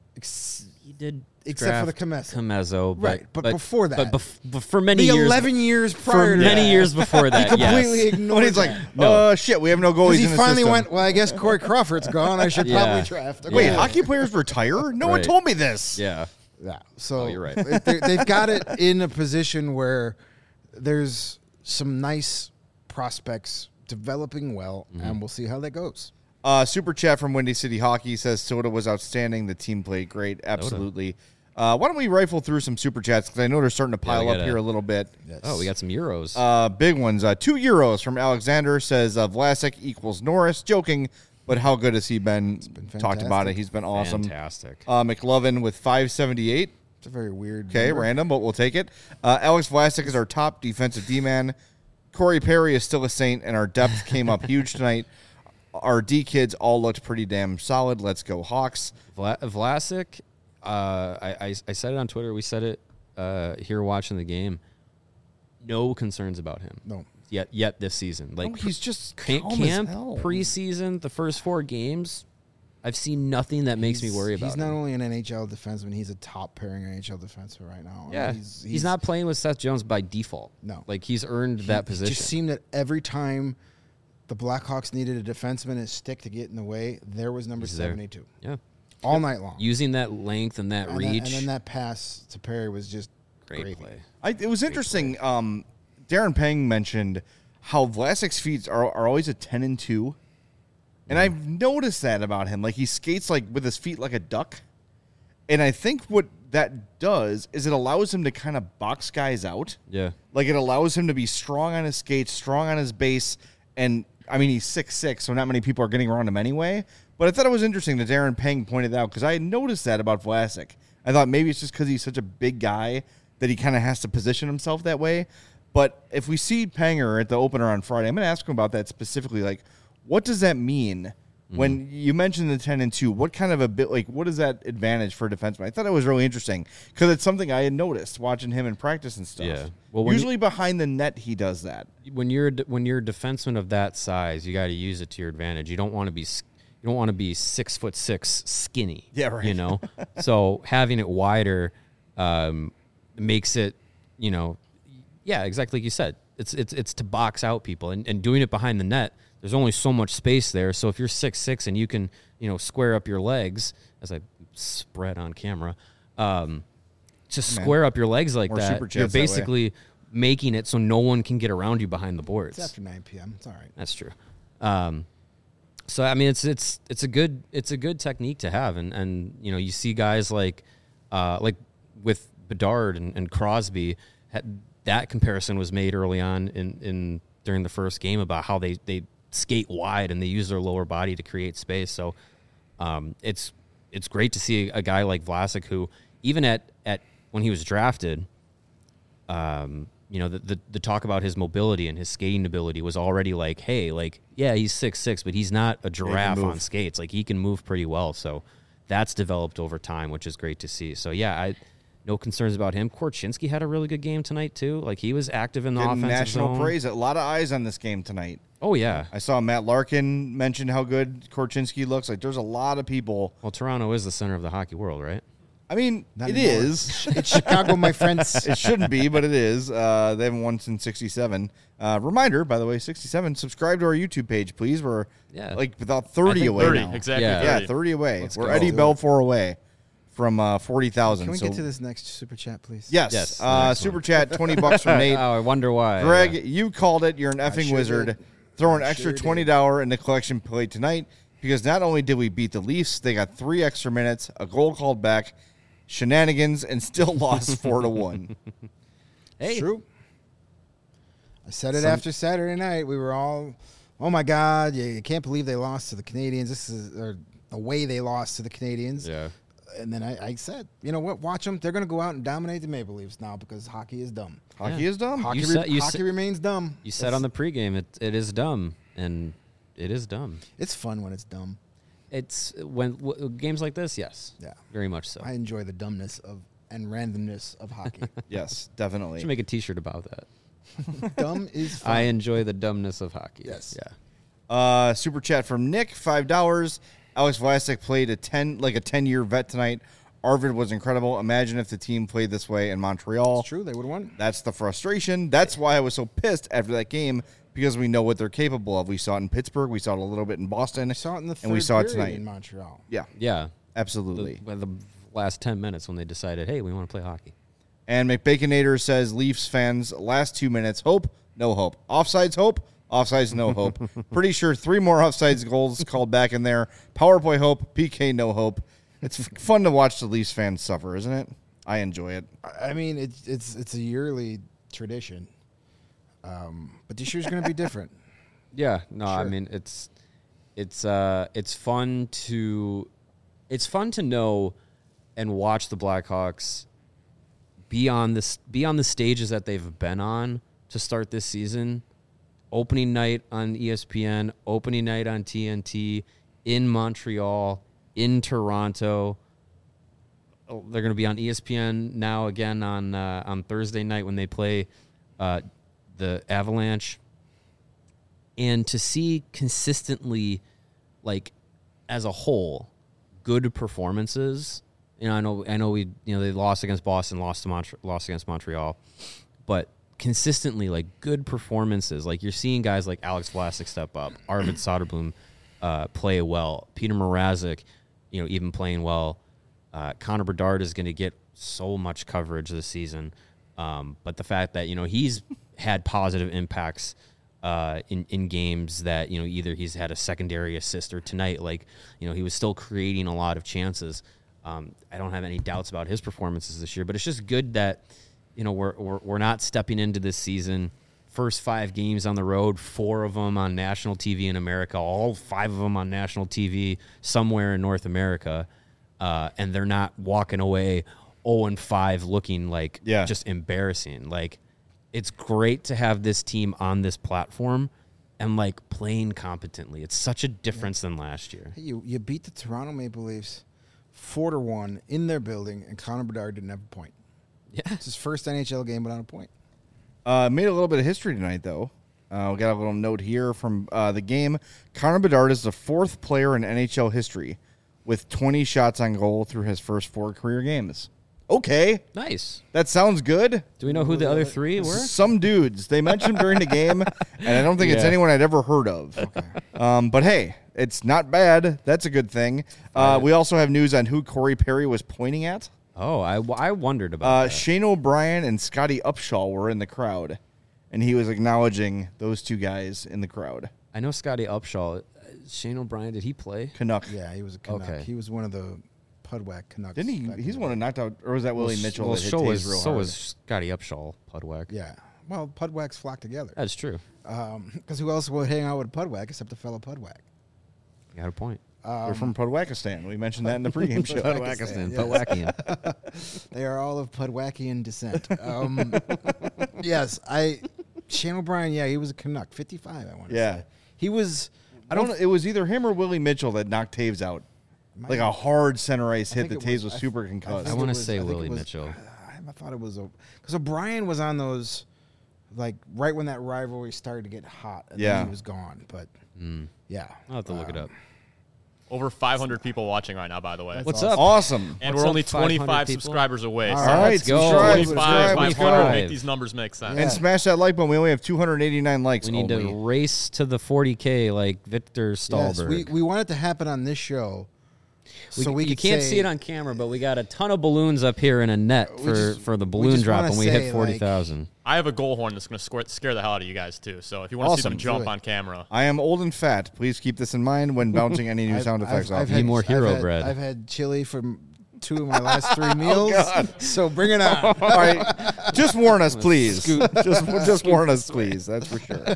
Ex- he did Except for the draft Commesso. Commesso, but, Right, but before that- but, bef- but for many the years, eleven years for prior to many that, years before that, he completely yes. ignored When he's like, that. No. uh, shit, we have no goalies Because he in the finally system. went, well, I guess Corey Crawford's gone. I should Yeah. probably draft. a Wait, Yeah. goalie." hockey players retire? No one Right. told me this. Yeah, Yeah. So Oh, you're right. they- they've got it in a position where there's some nice prospects developing well, Mm-hmm. and we'll see how that goes. Uh, Super chat from Windy City Hockey says Soda was outstanding. The team played great. Absolutely. Uh, why don't we rifle through some Super chats? Because I know they're starting to Yeah, pile we up gotta- here a little bit. Yes. Oh, we got some euros. Uh, big ones. Uh, two euros from Alexander says uh, Vlasic equals Norris. Joking, but how good has he been? been Talked about it. fantastic. He's been awesome. Fantastic. Uh, McLovin with five seventy-eight. It's a very weird. Okay, number. random, but we'll take it. Uh, Alex Vlasic is our top defensive D-man. Corey Perry is still a saint, and our depth came up huge tonight. Our D kids all looked pretty damn solid. Let's go Hawks. Vla- Vlasic, uh, I, I I said it on Twitter. We said it uh, here watching the game. No concerns about him. No. yet yet this season. Like No, he's just ca- calm as camp hell. preseason, the first four games, I've seen nothing that makes me He's- worry about. He's not him. only an N H L defenseman; he's a top pairing N H L defenseman right now. I mean, Yeah, he's, he's, not playing with Seth Jones by default. No. like he's earned that It position. just seemed that every time the Blackhawks needed a defenseman, a stick to get in the way, there was number He's there. seventy-two yeah, all night long. using that length and that and, reach. then, and then that pass to Perry was just great gravy. play. I, it was interesting. Um, Darren Pang mentioned how Vlasic's feet are, are always a ten and two, and I've noticed that about him. Like he skates like with his feet like a duck, and I think what that does is it allows him to kind of box guys out. Yeah, Like it allows him to be strong on his skates, strong on his base, and I mean he's six six, so not many people are getting around him anyway. But I thought it was interesting that Darren Pang pointed out because I had noticed that about Vlasic. I thought maybe it's just because he's such a big guy that he kind of has to position himself that way. But if we see Panger at the opener on Friday, I'm going to ask him about that specifically. Like, what does that mean when you mentioned the ten and two? What kind of a bit like what is that advantage for a defenseman? I thought it was really interesting because it's something I had noticed watching him in practice and stuff. Yeah. Well, when usually behind the net he does that. when you're a- when you're a defenseman of that size, you got to use it to your advantage. You don't want to be s- you don't want to be six foot six skinny. Yeah, right. You know, so having it wider um, makes it, you know, yeah, exactly like you said. It's it's it's to box out people and, and doing it behind the net. There's only so much space there. So if you're six six and you can, you know, square up your legs as I spread on camera, um, just Man. square up your legs like More that. super You're chats that way. basically making it so no one can get around you behind the boards. It's after nine p.m. It's all right. That's true. Um, so I mean, it's it's it's a good it's a good technique to have, and and you know you see guys like uh, like with Bedard and, and Crosby, had, that comparison was made early on in, in during the first game about how they they skate wide and they use their lower body to create space. So um, it's it's great to see a guy like Vlasic who even at at when he was drafted. Um, you know, the, the the talk about his mobility and his skating ability was already like, hey, like, yeah, he's six six, but he's not a giraffe move. on skates. Like, he can move pretty well. So that's developed over time, which is great to see. So, yeah, I no concerns about him. Korchinski had a really good game tonight, too. Like, he was active in the Getting offensive national zone. praise. A lot of eyes on this game tonight. Oh, yeah. I saw Matt Larkin mention how good Korchinski looks. Like there's a lot of people. Well, Toronto is the center of the hockey world, right? I mean, Not it anymore. is. It's Chicago, my friends. It shouldn't be, but it is. Uh, they haven't won since sixty-seven. Uh, reminder, by the way, sixty-seven. Subscribe to our YouTube page, please. We're Yeah. like about thirty think away thirty, now. exactly. Yeah. Yeah, thirty. thirty away. Let's We're go. Eddie Do it. Belfour away from uh, forty thousand. Can we so, get to this next super chat, please? Yes. Yes, the uh, next super one. chat, twenty bucks from Nate. Oh, I wonder why. Greg, Yeah. you called it. You're an effing sure wizard. did. Throw an I extra sure twenty dollars in the collection plate tonight because not only did we beat the Leafs, they got three extra minutes, a goal called back, shenanigans, and still lost four to one. Hey. It's true. I said it Some- after Saturday night. We were all, oh my God, you, you can't believe they lost to the Canadians. This is or the way they lost to the Canadians. Yeah. And then I, I said, you know what? Watch them. They're going to go out and dominate the Maple Leafs now because hockey is dumb. Hockey Yeah. is dumb. Hockey, You re- said- you hockey said- remains dumb. You said on the pregame it it is dumb, and it is dumb. It's fun when it's dumb. It's when w- games like this, yes, Yeah. very much so. I enjoy the dumbness of and randomness of hockey. Yes, definitely. should make a T-shirt about that. Dumb is fun. I enjoy the dumbness of hockey. Yes. Yeah. Uh, super chat from Nick, five dollars. Alex Vlasic played a ten, like a ten-year vet tonight. Arvid was incredible. Imagine if the team played this way in Montreal. It's true. They would have won. That's the frustration. That's why I was so pissed after that game because we know what they're capable of. We saw it in Pittsburgh. We saw it a little bit in Boston. I saw it in the third and we saw it period tonight. in Montreal. Yeah, Yeah. absolutely. The, the last ten minutes when they decided, hey, we want to play hockey. And McBaconator says, Leafs fans, last two minutes, hope, no hope. Offsides, hope, offsides, no hope. Pretty sure three more offsides goals called back in there. Power play, hope. P K, no hope. It's f- fun to watch the Leafs fans suffer, isn't it? I enjoy it. I mean, it's it's it's a yearly tradition, um, but this year's going to be different. Yeah, no, I Sure. mean it's it's uh it's fun to it's fun to know and watch the Blackhawks be on this be on the stages that they've been on to start this season. Opening night on E S P N, opening night on T N T, in Montreal, in Toronto. Oh, they're going to be on E S P N now again on uh, on Thursday night when they play uh, the Avalanche. and to see consistently, like as a whole, good performances. You know, I know, I know we, you know, they lost against Boston, lost to Mont- lost against Montreal, but consistently, like good performances. Like you're seeing guys like Alex Vlasic step up, Arvid Soderblom uh, play well, Peter Mrazek, you know, even playing well. Uh, Connor Bedard is going to get so much coverage this season, um, but the fact that you know he's had positive impacts uh, in in games that you know either he's had a secondary assist or tonight, like you know he was still creating a lot of chances. Um, I don't have any doubts about his performances this year, but it's just good that, you know, we're, we're, we're not stepping into this season, first five games on the road, four of them on national T V in America, all five of them on national T V somewhere in North America. Uh, and they're not walking away oh and five looking like Yeah. just embarrassing. Like it's great to have this team on this platform and like playing competently. It's such a difference than last year. Hey, you you beat the Toronto Maple Leafs four to one in their building, and Connor Bedard didn't have a point. Yeah. It's his first N H L game without a point. Uh, made a little bit of history tonight, though. Uh, we got a little note here from uh, the game. Connor Bedard is the fourth player in N H L history with twenty shots on goal through his first four career games. Okay, Nice. that sounds good. Do we know who the other three were? Some dudes. They mentioned him during the game, and I don't think it's Yeah. anyone I'd ever heard of. Um, but hey, it's not bad. That's a good thing. Uh, we also have news on who Corey Perry was pointing at. Oh, I, I wondered about Uh, that. Shane O'Brien and Scotty Upshaw were in the crowd, and he was acknowledging those two guys in the crowd. I know Scotty Upshaw. Uh, Shane O'Brien, did he play? Canuck. Yeah, he was a Canuck. Okay. He was one of the Pudwack Canucks. Didn't he? back in He's the one day. who knocked out, or was that Willie Well, Mitchell well, that hit so Taves was, real so hard? was Scotty Upshaw, Pudwack. Yeah. Well, Pudwacks flock together. That's true. Because who else would hang out with Pudwack except a fellow Pudwack? You got a point. We're from Pudwackistan. We mentioned that in the pregame show. Pudwackistan, yes. Pudwackian. They are all of Pudwackian descent. Um, yes, I. Shane O'Brien, yeah, he was a Canuck, fifty-five. I want to Yeah. say he was. I don't know. It was either him or Willie Mitchell that knocked Taves out. Might- Like a hard center ice I hit think that it Taves was- was I- super I concussed. I think wanna it was- say think Willie it was- Mitchell. I thought it was because O'Brien was on those, like right when that rivalry started to get hot. And Yeah. then he was gone. But Mm. yeah, I'll have to look it Um, up. Over five hundred people watching right now, by the way. That's What's awesome. up? Awesome. And What's we're up, only five hundred twenty-five people? subscribers away. All so All right, let's go. subscribe, twenty-five, subscribe, five subscribe. hundred, make these numbers make sense. Yeah. And smash that like button. We only have two hundred eighty-nine likes. We need only. to race to the forty K like Victor yes, Stahlberg. we we want it to happen on this show. We- so we you could can't say- see it on camera, but we got a ton of balloons up here in a net We for, just- for the we balloon just drop, wanna and we say, hit forty thousand. I have a goal horn that's going to scare the hell out of you guys, too. So if you want to see Awesome. them jump Do it. on camera. I am old and fat. Please keep this in mind when bouncing any new I've- sound effects I've, off. I've me. Need more hero I've had, bread. I've had chili for m- two of my last three meals. Oh, God. So bring it on. All right, just warn us, please. Just, just warn us, please. That's for sure.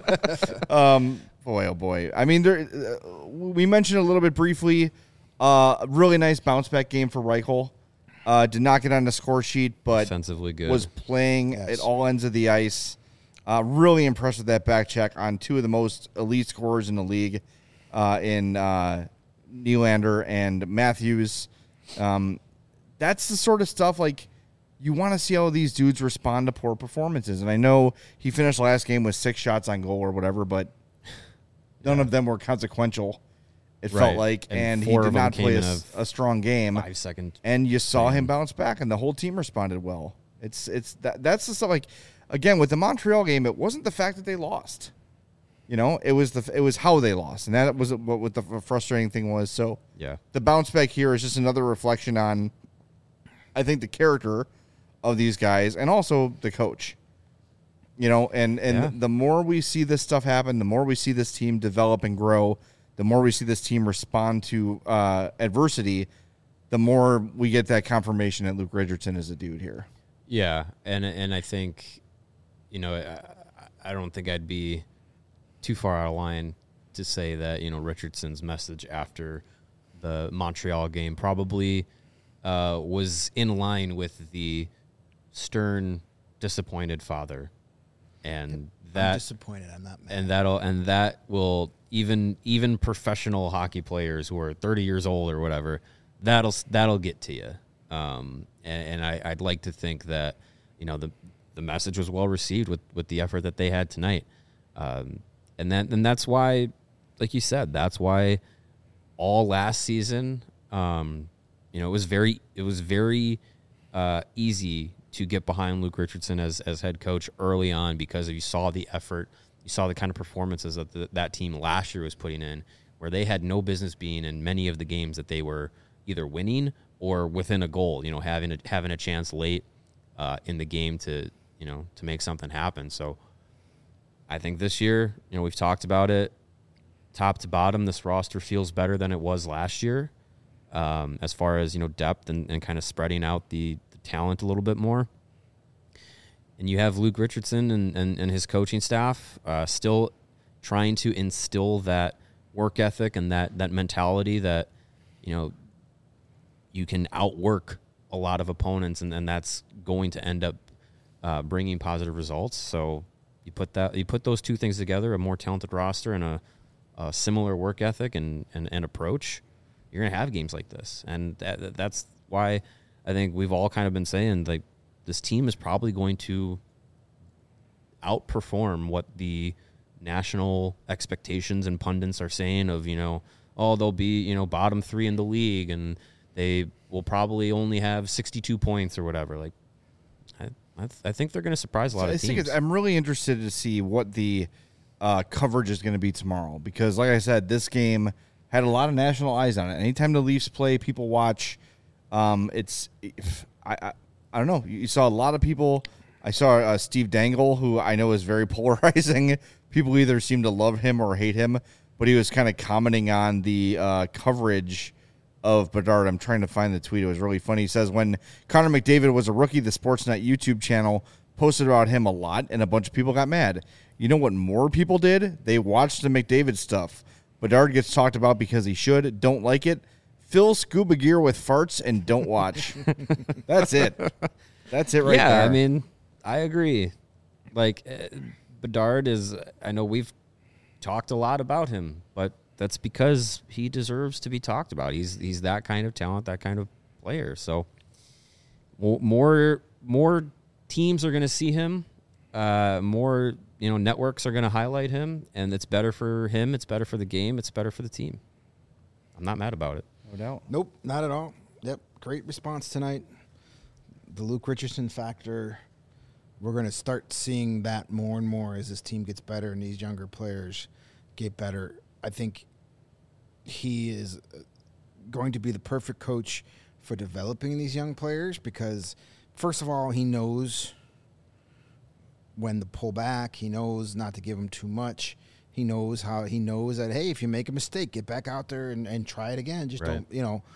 Um, boy, oh boy. I mean, there. Uh, we mentioned a little bit briefly. Uh, really nice bounce back game for Reichel. Uh, did not get on the score sheet, but Defensively good. was playing Yes. at all ends of the ice. Uh, really impressed with that back check on two of the most elite scorers in the league, uh, in uh, Nylander and Matthews. Um, that's the sort of stuff like you want to see how these dudes respond to poor performances. And I know he finished last game with six shots on goal or whatever, but none of them were consequential. It Right. felt like, And and, he four did of them not came play a, in s- a a strong game. five second. And you saw him bounce back, and the whole team responded well. It's it's that that's the stuff. Like again with the Montreal game, it wasn't the fact that they lost. You know, it was the it was how they lost, and that was what, what the frustrating thing was. So Yeah. the bounce back here is just another reflection on, I think, the character of these guys and also the coach. You know, and and Yeah. the more we see this stuff happen, the more we see this team develop and grow, the more we see this team respond to uh, adversity, the more we get that confirmation that Luke Richardson is a dude here. Yeah, and and I think, you know, I, I don't think I'd be too far out of line to say that, you know, Richardson's message after the Montreal game probably uh, was in line with the stern, disappointed father, and I'm that disappointed. I'm not mad. and that'll and that will even even professional hockey players who are thirty years old or whatever, that'll that'll get to you. Um, and, and I, I'd like to think that, you know, the the message was well received with, with the effort that they had tonight. Um, And then and that's why, like you said, that's why all last season, um, you know, it was very it was very uh, easy to get behind Luke Richardson as as head coach early on because you saw the effort, you saw the kind of performances that the, that team last year was putting in, where they had no business being in many of the games that they were either winning or within a goal, you know, having a, having a chance late uh, in the game to, you know, to make something happen. So I think this year, you know, we've talked about it, top to bottom, this roster feels better than it was last year um, as far as, you know, depth and, and kind of spreading out the, the talent a little bit more. And you have Luke Richardson and, and, and his coaching staff uh, still trying to instill that work ethic and that, that mentality that, you know, you can outwork a lot of opponents, and, and that's going to end up uh, bringing positive results. So you put that, you put those two things together, a more talented roster and a, a similar work ethic and, and, and approach, you're going to have games like this. And that, that's why I think we've all kind of been saying, like, this team is probably going to outperform what the national expectations and pundits are saying of, you know, oh, they'll be, you know, bottom three in the league and they will probably only have sixty-two points or whatever. Like, I, I, th- I think they're going to surprise a lot So of I teams. think it's, I'm really interested to see what the uh, coverage is going to be tomorrow because, like I said, this game had a lot of national eyes on it. Anytime the Leafs play, people watch. Um, it's if, I, I I don't know. You saw a lot of people. I saw uh, Steve Dangle, who I know is very polarizing. People either seem to love him or hate him, but he was kind of commenting on the uh, coverage of Bedard. I'm trying to find the tweet. It was really funny. He says, when Connor McDavid was a rookie, the Sportsnet YouTube channel posted about him a lot, and a bunch of people got mad. You know what more people did? They watched the McDavid stuff. Bedard gets talked about because he should. Don't like it. Fill scuba gear with farts and don't watch. That's it. That's it right yeah, there. I mean, I agree. Like, uh, Bedard is, I know we've talked a lot about him, but that's because he deserves to be talked about. He's he's that kind of talent, that kind of player. So more more teams are going to see him. Uh, more, you know, networks are going to highlight him, and it's better for him. It's better for the game. It's better for the team. I'm not mad about it. No doubt. Nope, not at all. Yep, great response tonight. The Luke Richardson factor, we're going to start seeing that more and more as this team gets better and these younger players get better. I think he is going to be the perfect coach for developing these young players because, first of all, he knows when to pull back. He knows not to give them too much. He knows how he knows that, hey, if you make a mistake, get back out there and, and try it again. Just Right. don't, you know.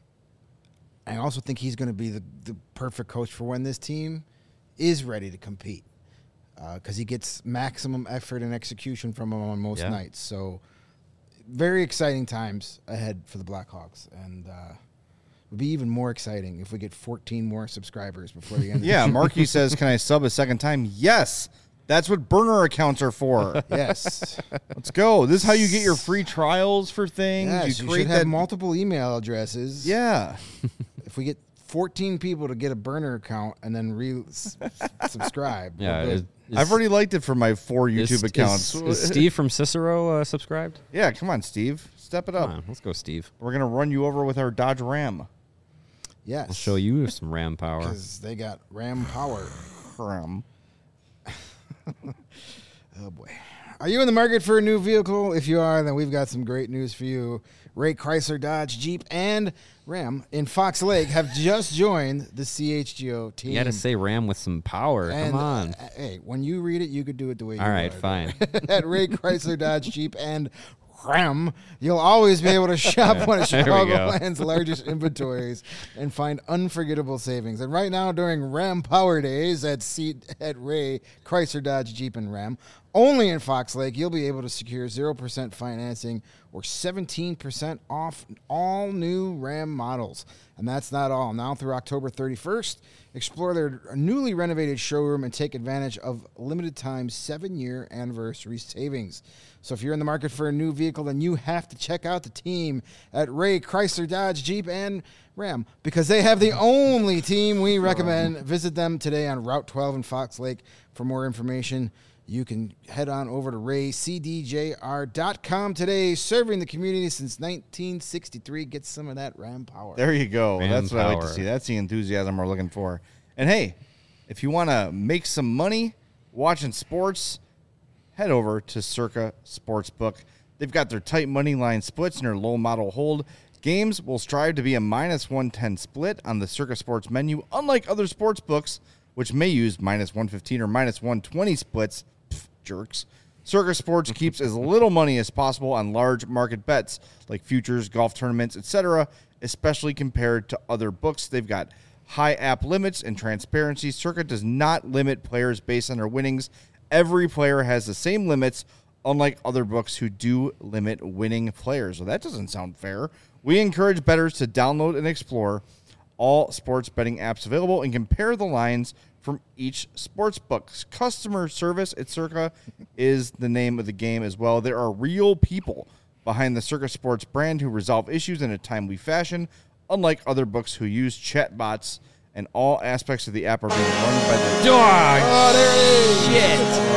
I also think he's going to be the, the perfect coach for when this team is ready to compete because uh, he gets maximum effort and execution from him on most Yeah. nights. So very exciting times ahead for the Blackhawks. And uh, it would be even more exciting if we get fourteen more subscribers before the end of Yeah, the Marky says, can I sub a second time? Yes. That's what burner accounts are for. Yes. Let's go. This is how you get your free trials for things. Yes, you, you create should have that. multiple email addresses. Yeah. If we get fourteen people to get a burner account and then re s- subscribe. we're Yeah, good. is, is, I've already liked it for my four YouTube is, accounts. Is, is Steve from Cicero uh, subscribed? Yeah, come on, Steve. Step it up. Come on, let's go, Steve. We're going to run you over with our Dodge Ram. Yes. I'll show you some Ram power. Because they got Ram power. Ram. Oh, boy. Are you in the market for a new vehicle? If you are, then we've got some great news for you. Ray Chrysler, Dodge, Jeep, and Ram in Fox Lake have just joined the C H G O team. You got to say Ram with some power. And, Come on. uh, hey, when you read it, you could do it the way you All right, want. fine. At Ray Chrysler, Dodge, Jeep, and Ram, you'll always be able to shop one of There we go. Chicagoland's largest inventories and find unforgettable savings. And right now, during Ram Power Days at C- at Ray Chrysler, Dodge, Jeep, and Ram, only in Fox Lake, you'll be able to secure zero percent financing or seventeen percent off all new Ram models. And that's not all. Now through October thirty-first, explore their newly renovated showroom and take advantage of limited time seven-year anniversary savings. So if you're in the market for a new vehicle, then you have to check out the team at Ray Chrysler, Dodge, Jeep, and Ram because they have the only team we recommend. Visit them today on Route twelve in Fox Lake for more information. you can head on over to ray c d j r dot com today. Serving the community since nineteen sixty-three. Get some of that Ram power. There you go. Ram That's what I like to power. see. That's the enthusiasm we're looking for. And hey, if you want to make some money watching sports, head over to Circa Sportsbook. They've got their tight money line splits and their low model hold. Games will strive to be a minus one ten split on the Circa Sports menu, unlike other sports books, which may use minus one fifteen or minus one twenty splits. Pff, jerks. Circa Sports keeps as little money as possible on large market bets like futures, golf tournaments, et cetera, especially compared to other books. They've got high app limits and transparency. Circa does not limit players based on their winnings. Every player has the same limits, unlike other books who do limit winning players. So that doesn't sound fair. We encourage bettors to download and explore all sports betting apps available and compare the lines from each sports book. Customer service at Circa is the name of the game as well. There are real people behind the Circa Sports brand who resolve issues in a timely fashion, unlike other books who use chatbots, and all aspects of the app are being run by the Oh, there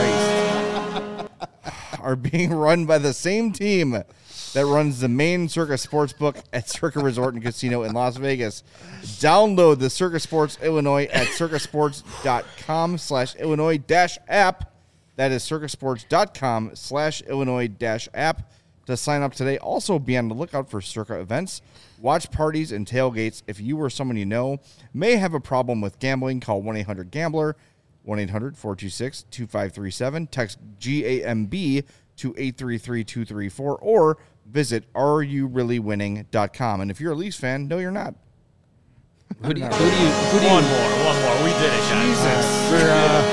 it is. Shit. are being run by the same team that runs the main Circa Sportsbook at Circa Resort and Casino in Las Vegas. Download the Circa Sports Illinois at circasports.com slash Illinois dash app. That is circasports.com slash Illinois dash app to sign up today. Also, be on the lookout for Circa events, watch parties, and tailgates. If you or someone you know may have a problem with gambling, call one eight hundred gambler, one eight hundred four two six two five three seven. Text G A M B to eight three three two three four or visit are you really winning dot com. And if you're a Leafs fan, no, you're not. Who do you, who do you, who do you, One more, one more. We did it, guys. We're,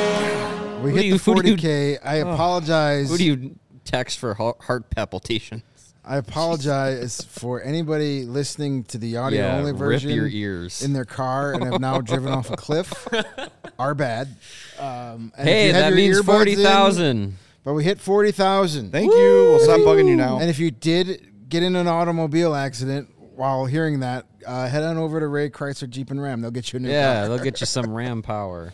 uh, we Who hit do you- the who do you- forty K. I apologize. who do you text for heart heart palpitations? I apologize for anybody listening to the audio Yeah, only rip version your ears. in their car and have now driven off a cliff. Our bad. Um, and if Hey, you have that your means earbuds in- forty thousand. But we hit forty thousand. Thank you. We'll stop bugging you now. And if you did get in an automobile accident while hearing that, uh, head on over to Ray Chrysler Jeep and Ram. They'll get you a new Yeah, car. they'll get you some Ram power.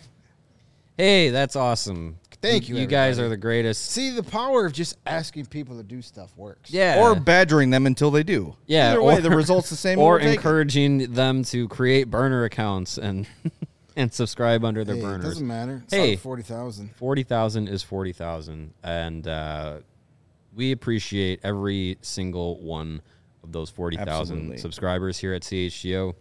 Hey, that's awesome. Thank you, You guys everybody. are the greatest. See, the power of just asking people to do stuff works. Yeah. Or badgering them until they do. Yeah, Either way, or- the result's the same. or We'll take it. encouraging them to create burner accounts and and subscribe under their Hey, it burners. doesn't matter. It's Hey. hey. forty thousand. forty thousand is forty thousand. And uh, we appreciate every single one of those forty thousand Absolutely. subscribers here at C H G O.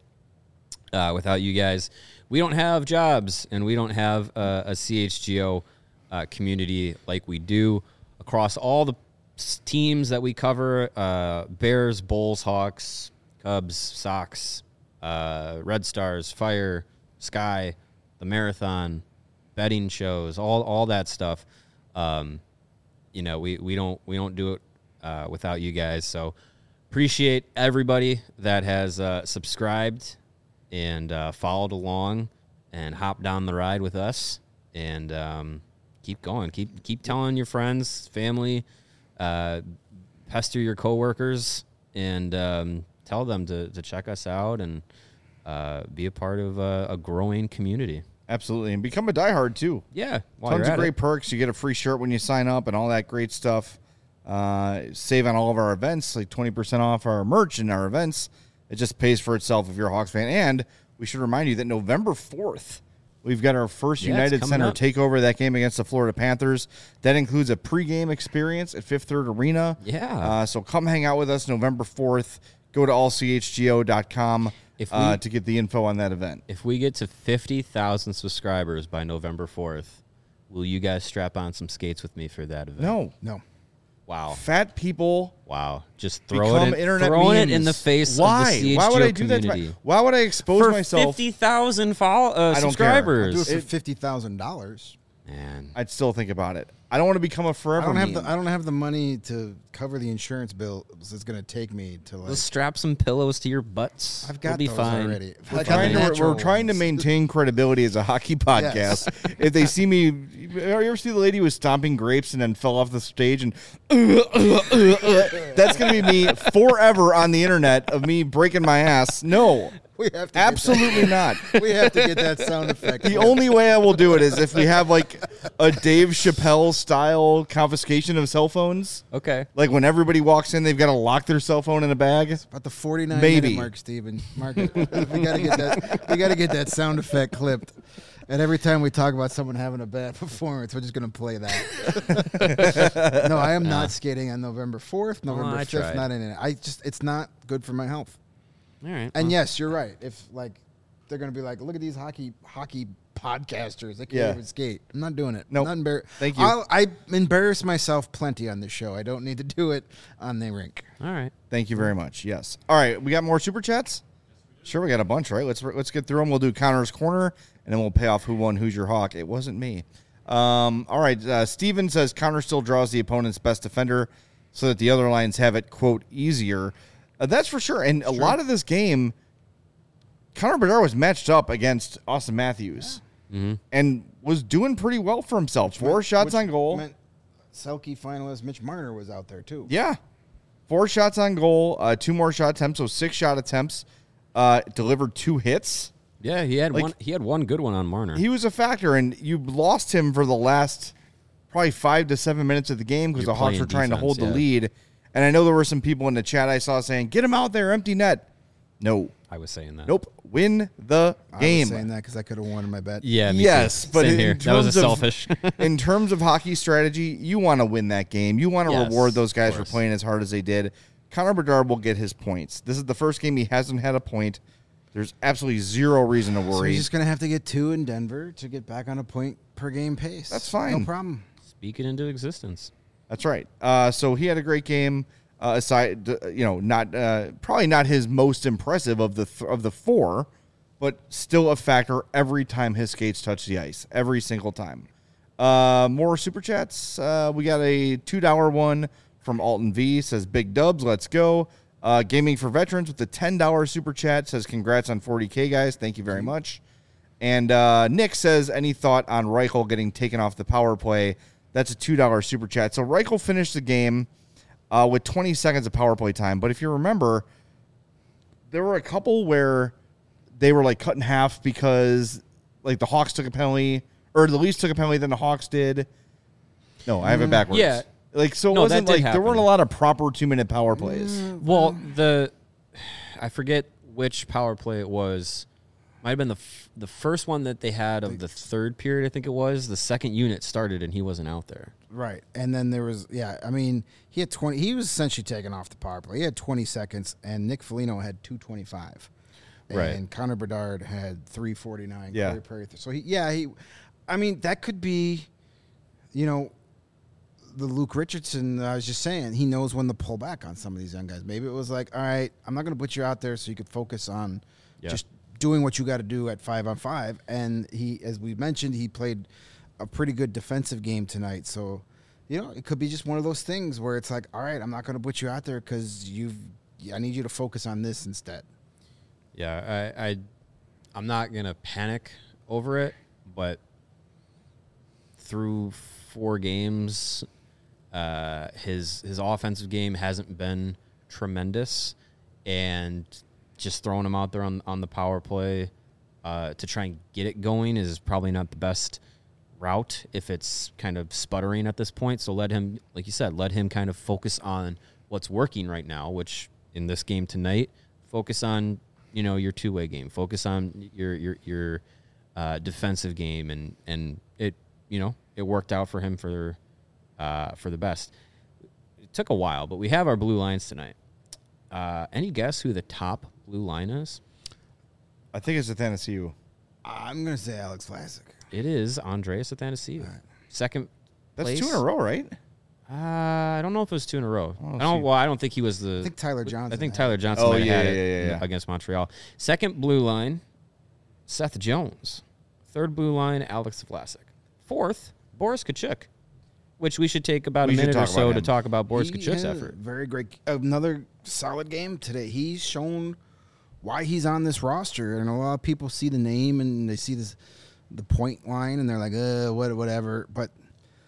Uh, without you guys, we don't have jobs and we don't have uh, a C H G O uh, community like we do across all the s- teams that we cover, uh, Bears, Bulls, Hawks, Cubs, Sox, uh, Red Stars, Fire, Sky, the Marathon, betting shows, all all that stuff. Um, you know, we, we don't we don't do it uh, without you guys. So appreciate everybody that has uh, subscribed and uh, followed along and hopped down the ride with us. And um, keep going. Keep keep telling your friends, family, uh, pester your coworkers, and um, tell them to, to check us out and uh, be a part of a, a growing community. Absolutely. And become a diehard, too. Yeah. while Tons you're of at great it. perks. You get a free shirt when you sign up and all that great stuff. Uh, save on all of our events, like twenty percent off our merch and our events. It just pays for itself if you're a Hawks fan. And we should remind you that November fourth, we've got our first Yeah, it's United coming Center up. takeover, that game against the Florida Panthers. That includes a pregame experience at Fifth Third Arena. Yeah. Uh, so come hang out with us November fourth. Go to all c h g o dot com If we- uh, to get the info on that event. If we get to fifty thousand subscribers by November fourth, will you guys strap on some skates with me for that event? No. No. Wow. Fat people Wow. Just throw become it in, internet throwing memes. it in the face Why? of the C H G O Why would I do that? To community. my, why would I expose For myself? fifty thousand follow, uh, I don't care. I'll subscribers. do it for It- fifty thousand dollars. Man. I'd still think about it. I don't want to become a I forever don't have meme. the I don't have the money to cover the insurance bill it's going to take me to like. Let's strap some pillows to your butts. I've We'll got be those fine. already. We're, I got trying the to, we're, natural we're trying to ones. maintain credibility as a hockey podcast. If they see me, you ever see the lady who was stomping grapes and then fell off the stage and that's going to be me forever on the internet of me breaking my ass. No, We have to Absolutely not. Get that, we have to get that sound effect. The only way I will do it is if we have like a Dave Chappelle style confiscation of cell phones. Okay. Like when everybody walks in, they've got to lock their cell phone in a bag. About the forty-nine Maybe. minute mark, Steven. Mark it. we gotta get that. We gotta get that sound effect clipped. And every time we talk about someone having a bad performance, we're just gonna play that. No, I am not skating on November fourth, November I fifth. tried. Not in it. I just it's not good for my health. All right. And well, yes, you're right. If like they're gonna be like, look at these hockey hockey podcasters. They can't Yeah. even skate. I'm not doing it. Nope. Not embar- Thank you. I'll, I embarrass myself plenty on this show. I don't need to do it on the rink. all right. Thank you very much. Yes. All right. We got more super chats. Sure, we got a bunch, right? Let's let's get through them. We'll do Connor's Corner, and then we'll pay off who won, who's your hawk. It wasn't me. Um, all right. Uh, Steven says Connor still draws the opponent's best defender so that the other lines have it, quote, easier. Uh, that's for sure. And a lot of this game, Connor Bedard was matched up against Austin Matthews and was doing pretty well for himself. Four shots Which on goal. meant Selke finalist Mitch Marner was out there too. Yeah. Four shots on goal, uh, two more shot attempts, so six shot attempts. Uh, delivered two hits. Yeah, he had Like- one. He had one good one on Marner. He was a factor, and you lost him for the last probably five to seven minutes of the game because You're the Hawks playing were trying to defense, hold the yeah. lead. And I know there were some people in the chat I saw saying, get him out there, empty net. No. I was saying that. Nope. Win the I game. was saying that because I could have won my bet. Yeah. Me Yes, too. but Same in here. That was a terms of- selfish. In terms of hockey strategy, you want to win that game. You want to Yes, reward those guys of for course. playing as hard as they did. Connor Bedard will get his points. This is the first game he hasn't had a point. There's absolutely zero reason to So worry. he's just gonna have to get two in Denver to get back on a point per game pace. That's fine. No problem. Speak it into existence. That's right. Uh, so he had a great game. Uh, aside, you know, not uh, probably not his most impressive of the th- of the four, but still a factor every time his skates touch the ice, every single time. Uh, more super chats. Uh, we got a two dollar one from Alton V. Says big dubs. Let's go. Uh, Gaming for Veterans with the ten dollar super chat says congrats on forty K guys. Thank you very much. And uh, Nick says any thought on Reichel getting taken off the power play? That's a two dollar super chat. So Reichel finished the game uh, with twenty seconds of power play time. But if you remember, there were a couple where they were like cut in half because like the Hawks took a penalty, or the Leafs took a penalty, then the Hawks did. No, I have it backwards. Yeah. Like, so it No, that wasn't did like there happen. weren't a lot of proper two minute power plays. Well, the I forget which power play it was. Might have been the f- the first one that they had of the third period. I think it was the second unit started and he wasn't out there. Right. And then there was, yeah, I mean, he had twenty, he was essentially taken off the power play. He had twenty seconds, and Nick Foligno had two twenty-five. Right. And Connor Bedard had three forty-nine. Yeah. Corey Perry- So, he, yeah, he, I mean, that could be, you know, the Luke Richardson, I was just saying, he knows when to pull back on some of these young guys. Maybe it was like, all right, I'm not going to put you out there so you could focus on Yeah. just doing what you got to do at five on five. And he, as we mentioned, he played a pretty good defensive game tonight. So, you know, it could be just one of those things where it's like, all right, I'm not going to put you out there because you've, I need you to focus on this instead. Yeah, I, I I'm not gonna panic over it, but through four games, uh, his his offensive game hasn't been tremendous, and just throwing him out there on on the power play uh, to try and get it going is probably not the best route if it's kind of sputtering at this point. So let him, like you said, let him kind of focus on what's working right now, which in this game tonight, focus on, you know, your two-way game, focus on your your your uh, defensive game, and and it, you know, it worked out for him for uh, for the best. It took a while, but we have our blue lines tonight. Uh, any guess who the top blue line is? I think it's Athanasiou. I'm going to say Alex Vlasic. It is Andreas Athanasiou. Second That's place. two in a row, right? Uh, I don't know if it was two in a row. Oh, I don't. see. Well, I don't think he was the. I think Tyler Johnson. I think had Tyler it. Johnson Oh, might have yeah, had yeah, it yeah, in- yeah. against Montreal. Second blue line, Seth Jones. Third blue line, Alex Vlasic. Fourth, Boris Kachuk, which we should take about We a should minute or talk so about to him. talk about Boris He Kachuk's had a effort. Very great. Another solid game today. He's shown why he's on this roster, and a lot of people see the name and they see this the point line, and they're like, uh, what, whatever. But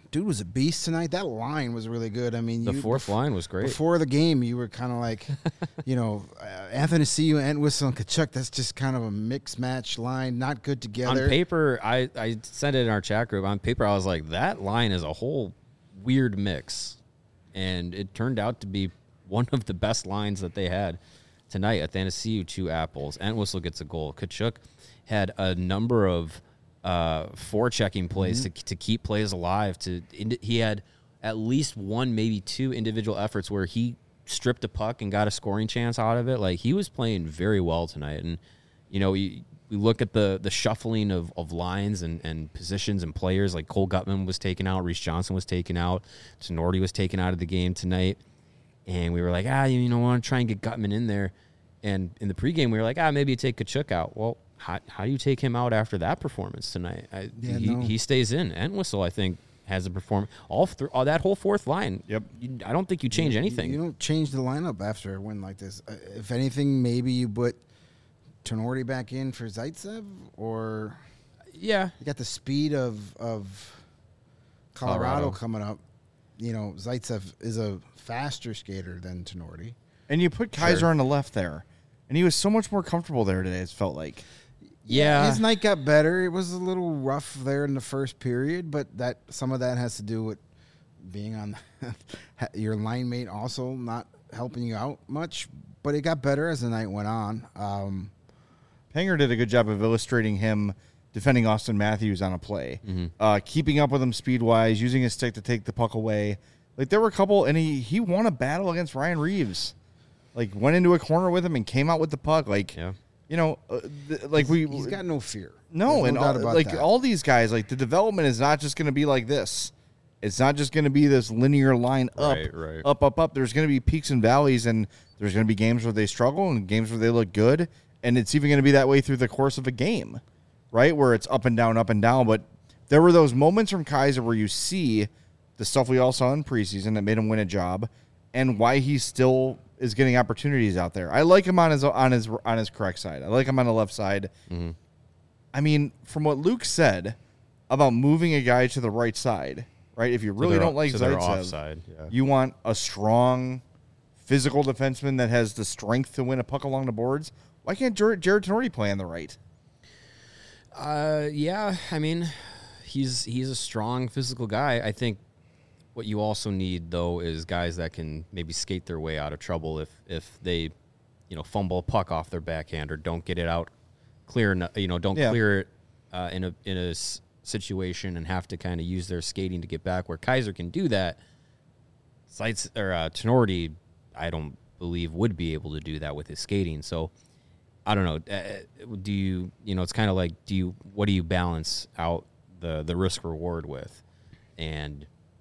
dude was a beast tonight. That line was really good. I mean, The you, fourth bef- line was great. Before the game, you were kind of like, you know, uh, Anthony Ciu, Entwistle, and Kachuk. That's just kind of a mix match line, not good together. On paper, I, I sent it in our chat group. On paper, I was like, that line is a whole weird mix. And it turned out to be one of the best lines that they had tonight. Athanasiou, two apples. Entwistle gets a goal. Kachuk had a number of uh, forechecking plays mm-hmm. to, to keep plays alive. To He had at least one, maybe two individual efforts where he stripped a puck and got a scoring chance out of it. Like, he was playing very well tonight. And, you know, we, we look at the the shuffling of, of lines and, and positions and players. Like, Cole Gutman was taken out. Reese Johnson was taken out. Tinordi was taken out of the game tonight. And we were like, ah, you know, want to try and get Gutman in there. And in the pregame, we were like, ah, maybe you take Kachuk out. Well, how, how do you take him out after that performance tonight? I, Yeah, he, no. he stays in. Entwistle, I think, has a performance. All, th- all that whole fourth line. Yep. You, I don't think you change You- anything. You don't change the lineup after a win like this. Uh, if anything, maybe you put Tinordi back in for Zaitsev, or yeah. you got the speed of of Colorado, Colorado. coming up. You know, Zaitsev is a faster skater than Tinordi. And you put Kaiser Sure. on the left there, and he was so much more comfortable there today. It felt like. Yeah. His night got better. It was a little rough there in the first period, but that some of that has to do with being on your line mate also not helping you out much. But it got better as the night went on. Um, Panger did a good job of illustrating him defending Austin Matthews on a play, Mm-hmm. uh, keeping up with him speed-wise, using his stick to take the puck away. Like, there were a couple, and he, he won a battle against Ryan Reeves. Like, went into a corner with him and came out with the puck. Like, Yeah. you know, uh, th- like we he's got no fear. no, There's and no doubt all, about like that. all these guys, like the development is not just going to be like this. It's not just going to be this linear line up, Right, right. up, up, up. There's going to be peaks and valleys, and there's going to be games where they struggle and games where they look good, and it's even going to be that way through the course of a game, right? Where it's up and down, up and down. But there were those moments from Kaiser where you see the stuff we all saw in preseason that made him win a job, and why he still is getting opportunities out there. I like him on his on his on his correct side. I like him on the left side. Mm-hmm. I mean, from what Luke said about moving a guy to the right side, right? If you really their- don't like to their Zaitsev, offside, yeah. you want a strong, physical defenseman that has the strength to win a puck along the boards. Why can't Jared, Jared Tinordi play on the right? Uh, yeah. I mean, he's he's a strong physical guy. I think what you also need though is guys that can maybe skate their way out of trouble if if they, you know, fumble a puck off their backhand or don't get it out clear enough. You know, don't Yeah. clear it uh, in a in a s- situation and have to kind of use their skating to get back. Where Kaiser can do that, Sites or uh, Tinordi, I don't believe would be able to do that with his skating. So. I don't know. Uh, do you, you know, it's kind of like, do you, what do you balance out the, the risk reward with? And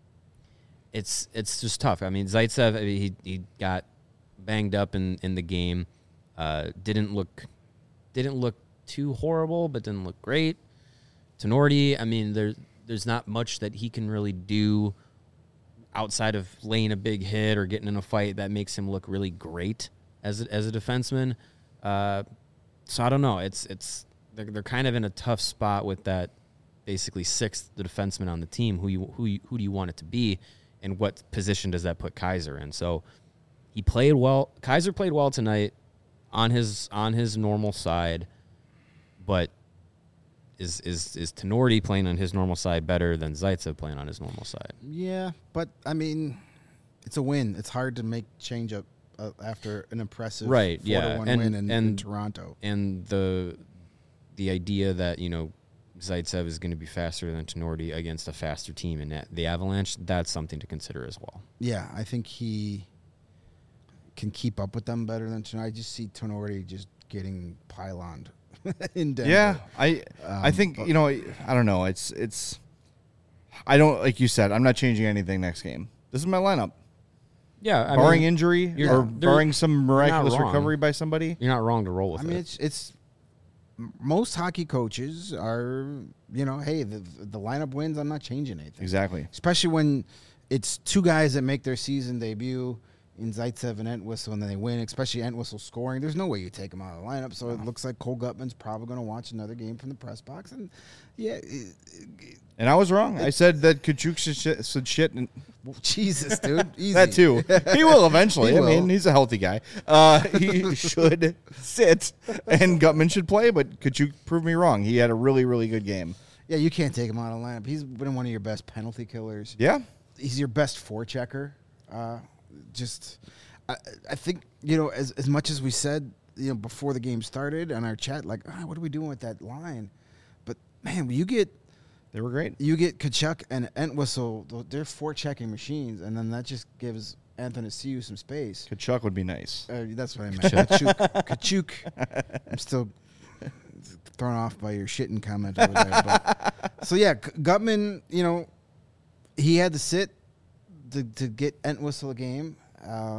it's, it's just tough. I mean, Zaitsev, I mean, he, he got banged up in, in the game. Uh, didn't look, didn't look too horrible, but didn't look great. Tinordi, I mean, there, there's not much that he can really do outside of laying a big hit or getting in a fight that makes him look really great as a, as a defenseman. Uh, so I don't know. It's it's they're, they're kind of in a tough spot with that basically sixth the defenseman on the team. Who you who you, who do you want it to be, and what position does that put Kaiser in? So he played well. Kaiser played well tonight on his on his normal side, but is is is Tinordi playing on his normal side better than Zaitsev playing on his normal side? Yeah, but I mean, it's a win. It's hard to make change up uh, after an impressive Right, four yeah, to one and- win in, in and- Toronto. And the the idea that, you know, Zaitsev is going to be faster than Tinordi against a faster team in that, the Avalanche, that's something to consider as well. Yeah, I think he can keep up with them better than tonight. I just see Tinordi just getting pyloned in Denver. Yeah, I I Um, think but- you know I don't know. It's it's I don't like you said. I'm not changing anything next game. This is my lineup. Yeah, I barring mean, injury you're- or there- barring some not miraculous wrong. recovery by somebody. you're not wrong to roll with I mean, it. it's it's m- most hockey coaches are, you know, hey, the the lineup wins. I'm not changing anything. Exactly. Especially when it's two guys that make their season debut in Zaitsev and Entwistle, and then they win, especially Entwistle scoring. There's no way you take him out of the lineup. So it looks like Cole Gutman's probably going to watch another game from the press box. And yeah, it, it, And I was wrong. I said that Kachuk should shit, should shit and well, Jesus, dude, easy. that too. He will eventually. He I mean, will. he's a healthy guy. Uh, he should sit, and Gutman should play. But Kachuk proved me wrong. He had a really, really good game. Yeah, you can't take him out of the lineup. He's been one of your best penalty killers. Yeah. He's your best forechecker. Uh, just, I, I think you know as as much as we said, you know, before the game started on our chat, like, ah, what are we doing with that line? But man, you get They were great. you get Kachuk and Entwistle, they're forechecking machines, and then that just gives Anthony Siu some space. Kachuk would be nice. Uh, that's what I meant. Kachuk. Kachuk. I'm still thrown off by your shitting comment over there. But, so yeah, G- Gutman, you know, he had to sit to, to get Entwistle a game. Uh,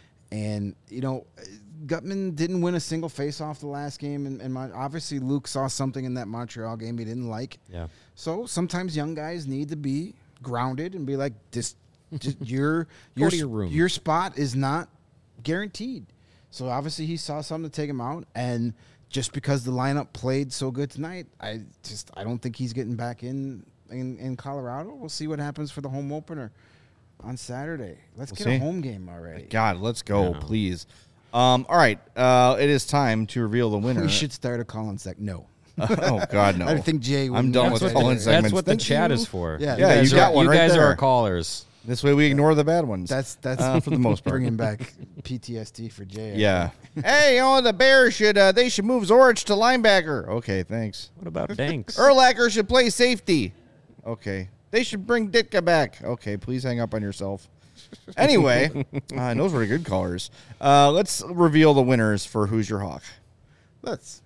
and, you know, Gutman didn't win a single face-off the last game. And, and Mon- obviously Luke saw something in that Montreal game he didn't like. Yeah. So sometimes young guys need to be grounded and be like, this, just your, your, to your room. your spot is not guaranteed. So obviously he saw something to take him out. And just because the lineup played so good tonight, I just I don't think he's getting back in in, in Colorado. We'll see what happens for the home opener on Saturday. Let's We'll get see. a home game already. God, let's go, Yeah. please. Um, all right. Uh, it is time to reveal the winner. We should start a call-in sec. No. oh, God, no. I think Jay I'm wouldn't done want with that call-in either. segments. That's what the Thank chat you. is for. Yeah, Yeah, guys you are- got one You right guys there. are our callers. This way we ignore the bad ones. That's that's Uh, for the most part. bringing back P T S D for Jay. I Yeah. think. Hey, you know, the Bears should uh, they should move Zorich to linebacker. Okay, thanks. What about Danks? Urlacher should play safety. Okay. They should bring Ditka back. Okay, please hang up on yourself. Anyway, uh, and those were good callers. Uh, let's reveal the winners for Who's Your Hawk. Let's.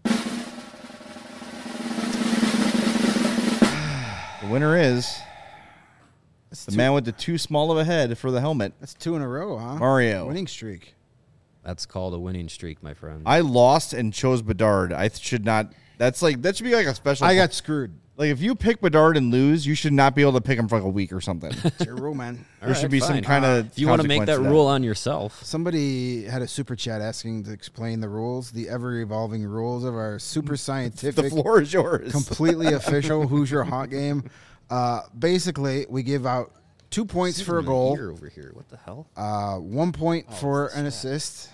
The winner is That's the two, man with the too small of a head for the helmet, that's two in a row, huh? Mario. Winning streak. That's called a winning streak, my friend. I lost and chose Bedard. I th- should not. That's like that should be like a special. I got screwed. like if you pick Bedard and lose, you should not be able to pick him for like a week or something. It's your rule, man. There All should right, be some fine. kind of. If you want to make that rule on yourself, Somebody had a super chat asking to explain the rules, the ever-evolving rules of our super The scientific, floor is yours. completely official Who's Your Hot game. Uh, basically, we give out two points for a goal, Here over here. What the hell? uh, one point Oh, for an assist,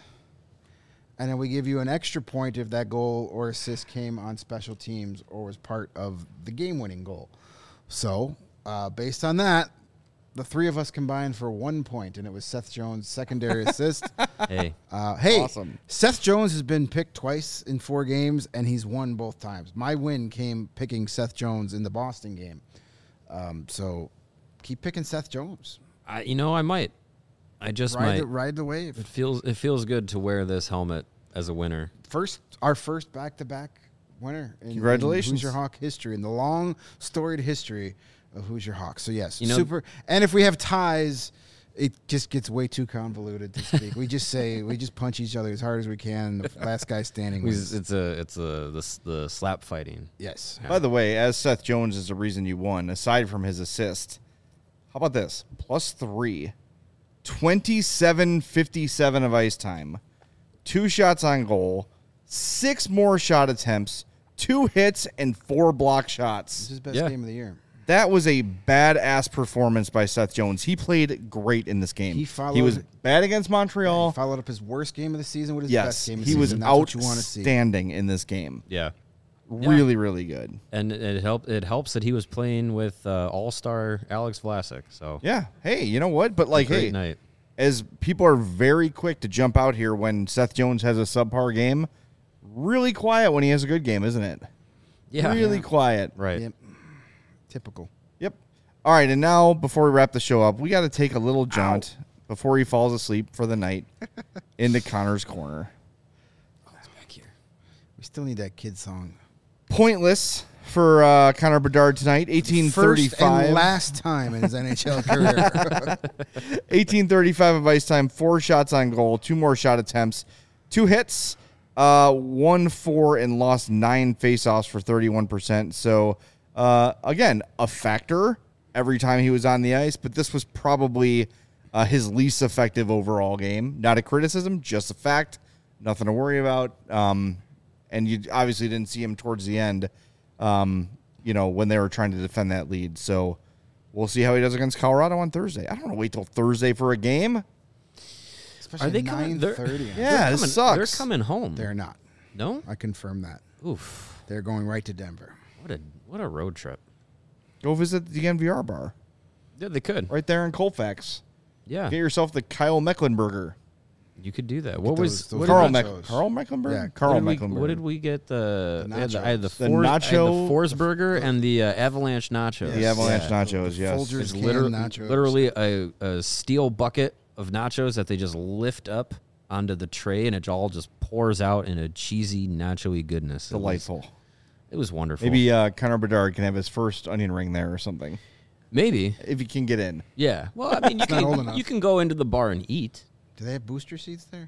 and then we give you an extra point if that goal or assist came on special teams or was part of the game-winning goal. So, uh, based on that, the three of us combined for one point, and it was Seth Jones' secondary assist. Hey, Uh, hey, Awesome. Seth Jones has been picked twice in four games, and he's won both times. My win came picking Seth Jones in the Boston game. Um, so keep picking Seth Jones. I, you know I might. I just Ride might. the, ride the wave. It feels it feels good to wear this helmet as a winner. First, our first back-to-back winner. In, Congratulations. in Who's Your Hawk history, in the long, storied history of Who's Your Hawk. So, yes, You know- super. And if we have ties, it just gets way too convoluted to speak. we just say, we just punch each other as hard as we can. The last guy standing wins. It's a it's a the, s- the slap fighting. Yes. By the way, as Seth Jones is the reason you won, aside from his assist, how about this? Plus three. twenty-seven fifty-seven of ice time. Two shots on goal. Six more shot attempts. Two hits and four block This shots. is his best Yeah. game of the year. That was a badass performance by Seth Jones. He played great in this game. He followed- he was bad against Montreal. He followed up his worst game of the season with his yes, best game of the he season. was That's what you want to see. outstanding in this game. Yeah. Really, really good. And it helped. It helps that he was playing with uh, All Star Alex Vlasic. So Yeah. Hey, you know what? But like, great hey, night. as people are very quick to jump out here when Seth Jones has a subpar game, really quiet when he has a good game, isn't it? Yeah. Really quiet. Right. Yep. Typical. Yep. All right, and now before we wrap the show up, we got to take a little jaunt before he falls asleep for the night into Connor's corner. Back here. We still need that kid song. Pointless for uh, Connor Bedard tonight. eighteen First thirty-five. and last time in his N H L career. eighteen thirty-five of ice time, four shots on goal, two more shot attempts, two hits, uh, one four, and lost nine faceoffs for thirty-one percent. So, uh, again, a factor every time he was on the ice, but this was probably Uh, his least effective overall game. Not a criticism, just a fact. Nothing to worry about. Um, and you obviously didn't see him towards the end, um, you know, when they were trying to defend that lead. So we'll see how he does against Colorado on Thursday. I don't want to wait till Thursday for a game. Especially Are they coming? nine They're- thirty. Yeah, They're this coming, sucks. They're coming home. They're not. no? I confirm that. Oof. They're going right to Denver. What a what a road trip. Go visit the N V R bar Yeah, they could. right there in Colfax. Yeah, Get yourself the Kyle Mecklenburger. you could do that. What was those- those what Carl, did, Meck- nachos. Carl Mecklenburger? Yeah, Carl what did we, Mecklenburger. what did we get? The, The I had the I had the, nachos. The Force, I had nacho- the Force Burger and the uh, Avalanche nachos. The Avalanche Yeah. nachos, yes. Folgers It's canned literally, nachos. literally a, a steel bucket of nachos that they just lift up onto the tray, and it all just pours out in a cheesy, nacho-y goodness. It was- Delightful. It was wonderful. Maybe uh, Connor Bedard can have his first onion ring there or something, Maybe. if he can get in. Yeah. Well, I mean, you not old can enough. you can go into the bar and eat. Do they have booster seats there?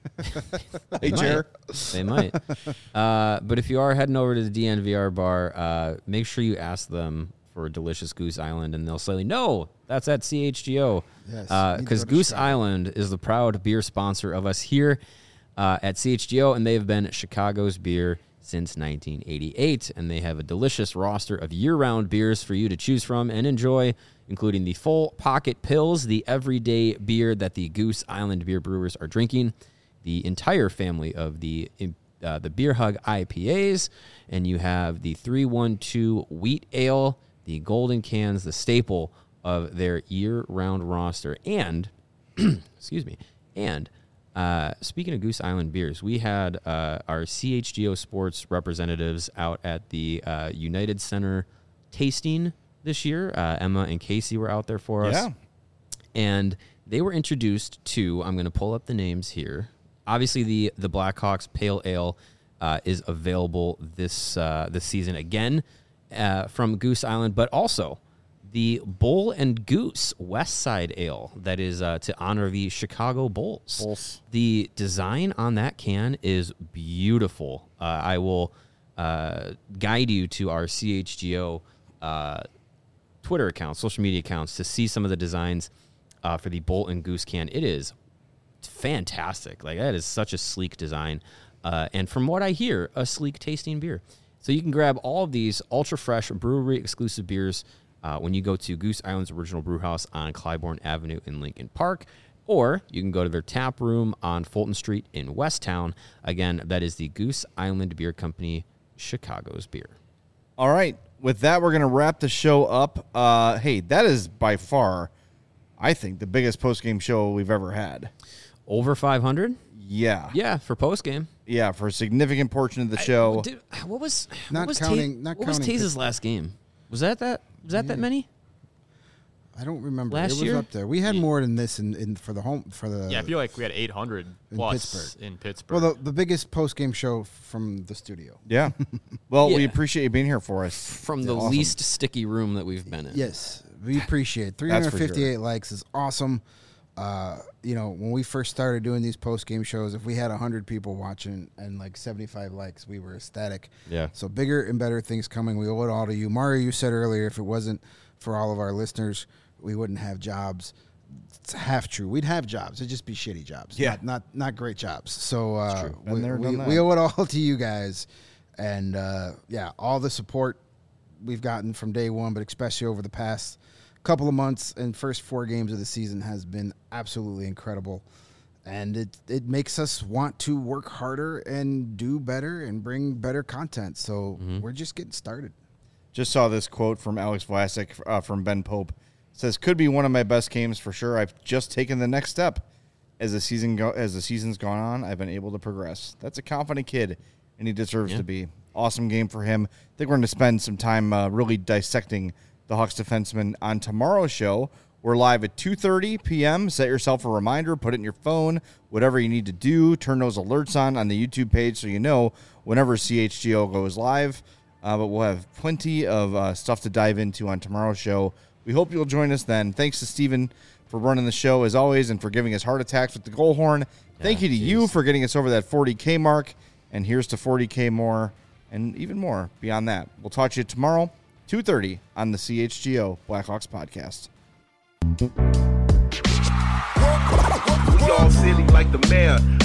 Hey, might. Chair. They might. Uh, but if you are heading over to the D N V R bar, uh, make sure you ask them for Delicious Goose Island, and they'll say, no, that's at C H G O. Yes, Because need to go to Goose Chicago. Island is the proud beer sponsor of us here uh, at C H G O, and they've been Chicago's beer since nineteen eighty-eight, and they have a delicious roster of year-round beers for you to choose from and enjoy, including the full pocket pills, the everyday beer that the Goose Island beer brewers are drinking, the entire family of the uh, the Beer Hug I P As, and you have the three one two Wheat Ale, the golden cans, the staple of their year-round roster. And, excuse me, and uh, speaking of Goose Island beers, we had uh, our C H G O Sports representatives out at the uh, United Center tasting this year. Uh, Emma and Casey were out there for us. Yeah. And they were introduced to, I'm going to pull up the names here. Obviously, the the Blackhawks Pale Ale uh, is available this uh, this season again uh, from Goose Island, but also the Bull and Goose West Side Ale that is uh, to honor the Chicago Bulls. Bulls. The design on that can is beautiful. Uh, I will uh, guide you to our C H G O uh, Twitter accounts, social media accounts, to see some of the designs uh, for the Bull and Goose can. It is fantastic. Like, that is such a sleek design. Uh, and from what I hear, a sleek tasting beer. So you can grab all of these ultra fresh brewery exclusive beers uh, when you go to Goose Island's original brew house on Clybourne Avenue in Lincoln Park, or you can go to their tap room on Fulton Street in Westtown. Again, that is the Goose Island Beer Company, Chicago's beer. All right. With that, we're going to wrap the show up. Uh, hey, that is by far, I think, the biggest post-game show we've ever had. Over five hundred? Yeah. Yeah, for postgame. Yeah, for a significant portion of the show. Dude, what was Not what was counting- Ta- not what was counting Taze's Pittsburgh. last game? Was that that? Was that that many? I don't remember. Last it was year? up there. We had more than this in, in for the home for the. Yeah, I feel like we had eight hundred in plus Pittsburgh. in Pittsburgh. well, the, the biggest post game show from the studio. Yeah. Well, we Yeah. appreciate you being here for us. From the Awesome. least sticky room that we've been in. Yes, we appreciate it. That's for sure. three hundred fifty-eight likes is awesome. Uh, you know, when we first started doing these post game shows, if we had one hundred people watching and like seventy-five likes, we were ecstatic. Yeah. So bigger and better things coming. We owe it all to you. Mario, you said earlier, if it wasn't for all of our listeners, we wouldn't have jobs. It's half true. We'd have jobs. It'd just be shitty jobs. Yeah. Not not, not great jobs. So uh, true. Been we, there, we, done that. we owe it all to you guys. And uh, yeah, all the support we've gotten from day one, but especially over the past couple of months and first four games of the season has been absolutely incredible. And it it makes us want to work harder and do better and bring better content. So we're just getting started. Just saw this quote from Alex Vlasic uh, from Ben Pope. It says, could be one of my best games for sure. I've just taken the next step. As the season go- as the season's gone on, I've been able to progress. That's a confident kid, and he deserves Yeah. to be. Awesome game for him. I think we're going to spend some time uh, really dissecting the Hawks defenseman on tomorrow's show. We're live at two thirty p.m. Set yourself a reminder. Put it in your phone. Whatever you need to do. Turn those alerts on on the YouTube page so you know whenever C H G O goes live. Uh, but we'll have plenty of uh, stuff to dive into on tomorrow's show. We hope you'll join us then. Thanks to Steven for running the show, as always, and for giving us heart attacks with the goal horn. Thank Yeah, you to geez. you for getting us over that forty K mark. And here's to forty K more and even more beyond that. We'll talk to you tomorrow, two thirty on the C H G O Blackhawks podcast. We all silly like the mayor.